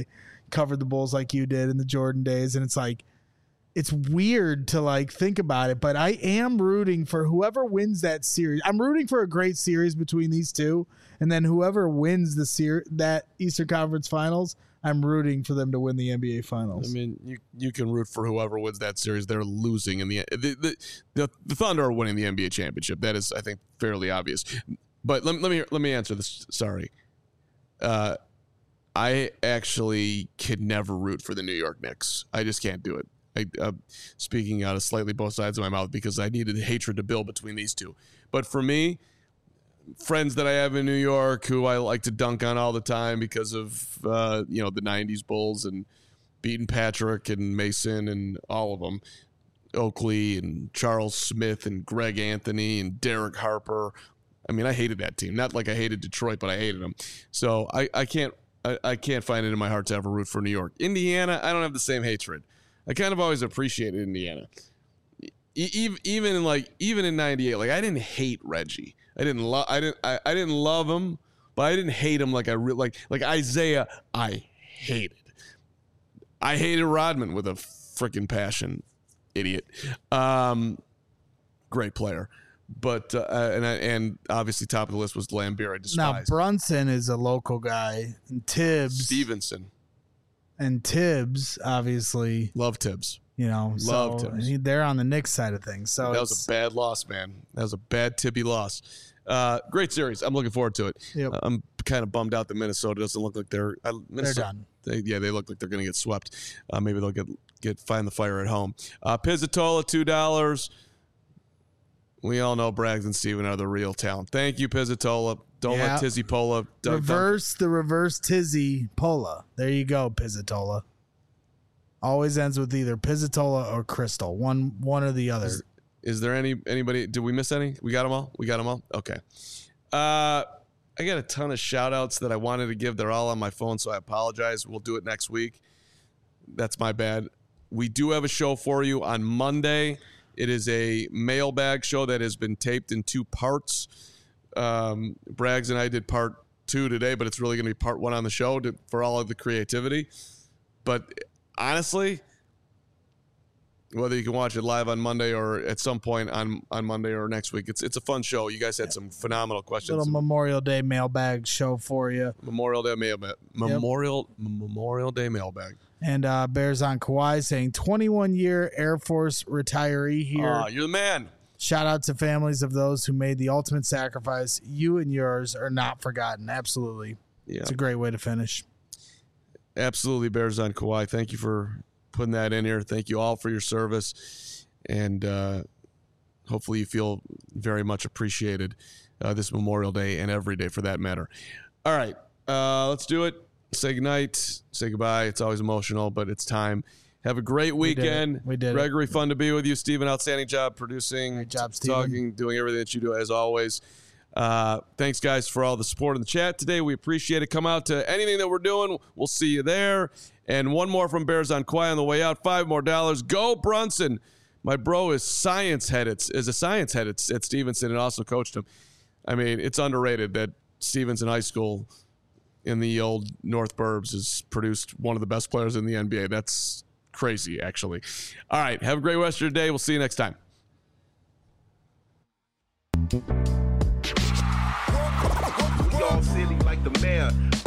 covered the Bulls like you did in the Jordan days, and it's like it's weird to like think about it, but I am rooting for whoever wins that series. I'm rooting for a great series between these two, and then whoever wins the ser- that Eastern Conference Finals, I'm rooting for them to win the N B A Finals. I mean, you you can root for whoever wins that series. They're losing in the the the, the, the Thunder are winning the N B A championship. That is, I think, fairly obvious. But let, let me let me answer this. Sorry, uh, I actually could never root for the New York Knicks. I just can't do it. I, uh, speaking out of slightly both sides of my mouth because I needed hatred to build between these two. But for me, friends that I have in New York who I like to dunk on all the time because of uh, you know the nineties Bulls and beating Patrick and Mason and all of them, Oakley and Charles Smith and Greg Anthony and Derek Harper. I mean, I hated that team. Not like I hated Detroit, but I hated them. So I, I can't I, I can't find it in my heart to ever root for New York. Indiana, I don't have the same hatred. I kind of always appreciated Indiana. Even even in like even in ninety-eight, like I didn't hate Reggie. I didn't love I didn't I, I didn't love him, but I didn't hate him like I re- like like Isaiah. I hated. I hated Rodman with a freaking passion. Idiot. Um, great player, but uh, and I, and obviously top of the list was Lambeer. I Now despise. Brunson is a local guy, and Tibbs Stevenson. and Tibbs obviously Love Tibbs. You know, Love so Tibbs. he- they're on the Knicks side of things. So That was it's- a bad loss, man. That was a bad Tibby loss. Uh, great series. I'm looking forward to it. Yep. Uh, I'm kind of bummed out that Minnesota doesn't look like they're uh, Minnesota, done. They, yeah, they look like they're going to get swept. Uh, maybe they'll get get find the fire at home. Uh, Pizzatola, two dollars. We all know Braggs and Steven are the real talent. Thank you, Pizzatola. Don't Yeah. let Tizzy Pola. Don't, reverse the reverse Tizzy Pola. There you go, Pizzatola. Always ends with either Pizzatola or Crystal. One one or the other. Is, is there any anybody? Did we miss any? We got them all? We got them all? Okay. Uh, I got a ton of shout outs that I wanted to give. They're all on my phone, so I apologize. We'll do it next week. That's my bad. We do have a show for you on Monday. It is a mailbag show that has been taped in two parts. Um, Braggs and I did part two today, but it's really going to be part one on the show to, for all of the creativity. But honestly, whether you can watch it live on Monday or at some point on, on Monday or next week, it's it's a fun show. You guys had some phenomenal questions. Little Memorial Day mailbag show for you. Memorial Day mailbag. Memorial Memorial Day mailbag. And uh, Bears on Kawhi saying twenty-one year Air Force retiree here. Aw, you're the man. Shout out to families of those who made the ultimate sacrifice. You and yours are not forgotten. Absolutely. Yeah. It's a great way to finish. Absolutely, Bears on Kawhi. Thank you for putting that in here. Thank you all for your service. And uh, hopefully you feel very much appreciated uh, this Memorial Day and every day for that matter. All right, uh, let's do it. Say goodnight. Say goodbye. It's always emotional, but it's time. Have a great weekend. We did it. Gregory, fun to be with you. Steven, outstanding job producing, Great job, Steven. talking, doing everything that you do as always. Uh, thanks, guys, for all the support in the chat today. We appreciate it. Come out to anything that we're doing. We'll see you there. And one more from Bears on Kawhi on the way out. Five more dollars. Go Brunson. My bro is science head. It's is a science head at, at Stevenson and also coached him. I mean, it's underrated that Stevenson High School in the old North Burbs has produced one of the best players in the N B A. That's crazy, actually. All right. Have a great rest of your day. We'll see you next time. We all silly like the mayor.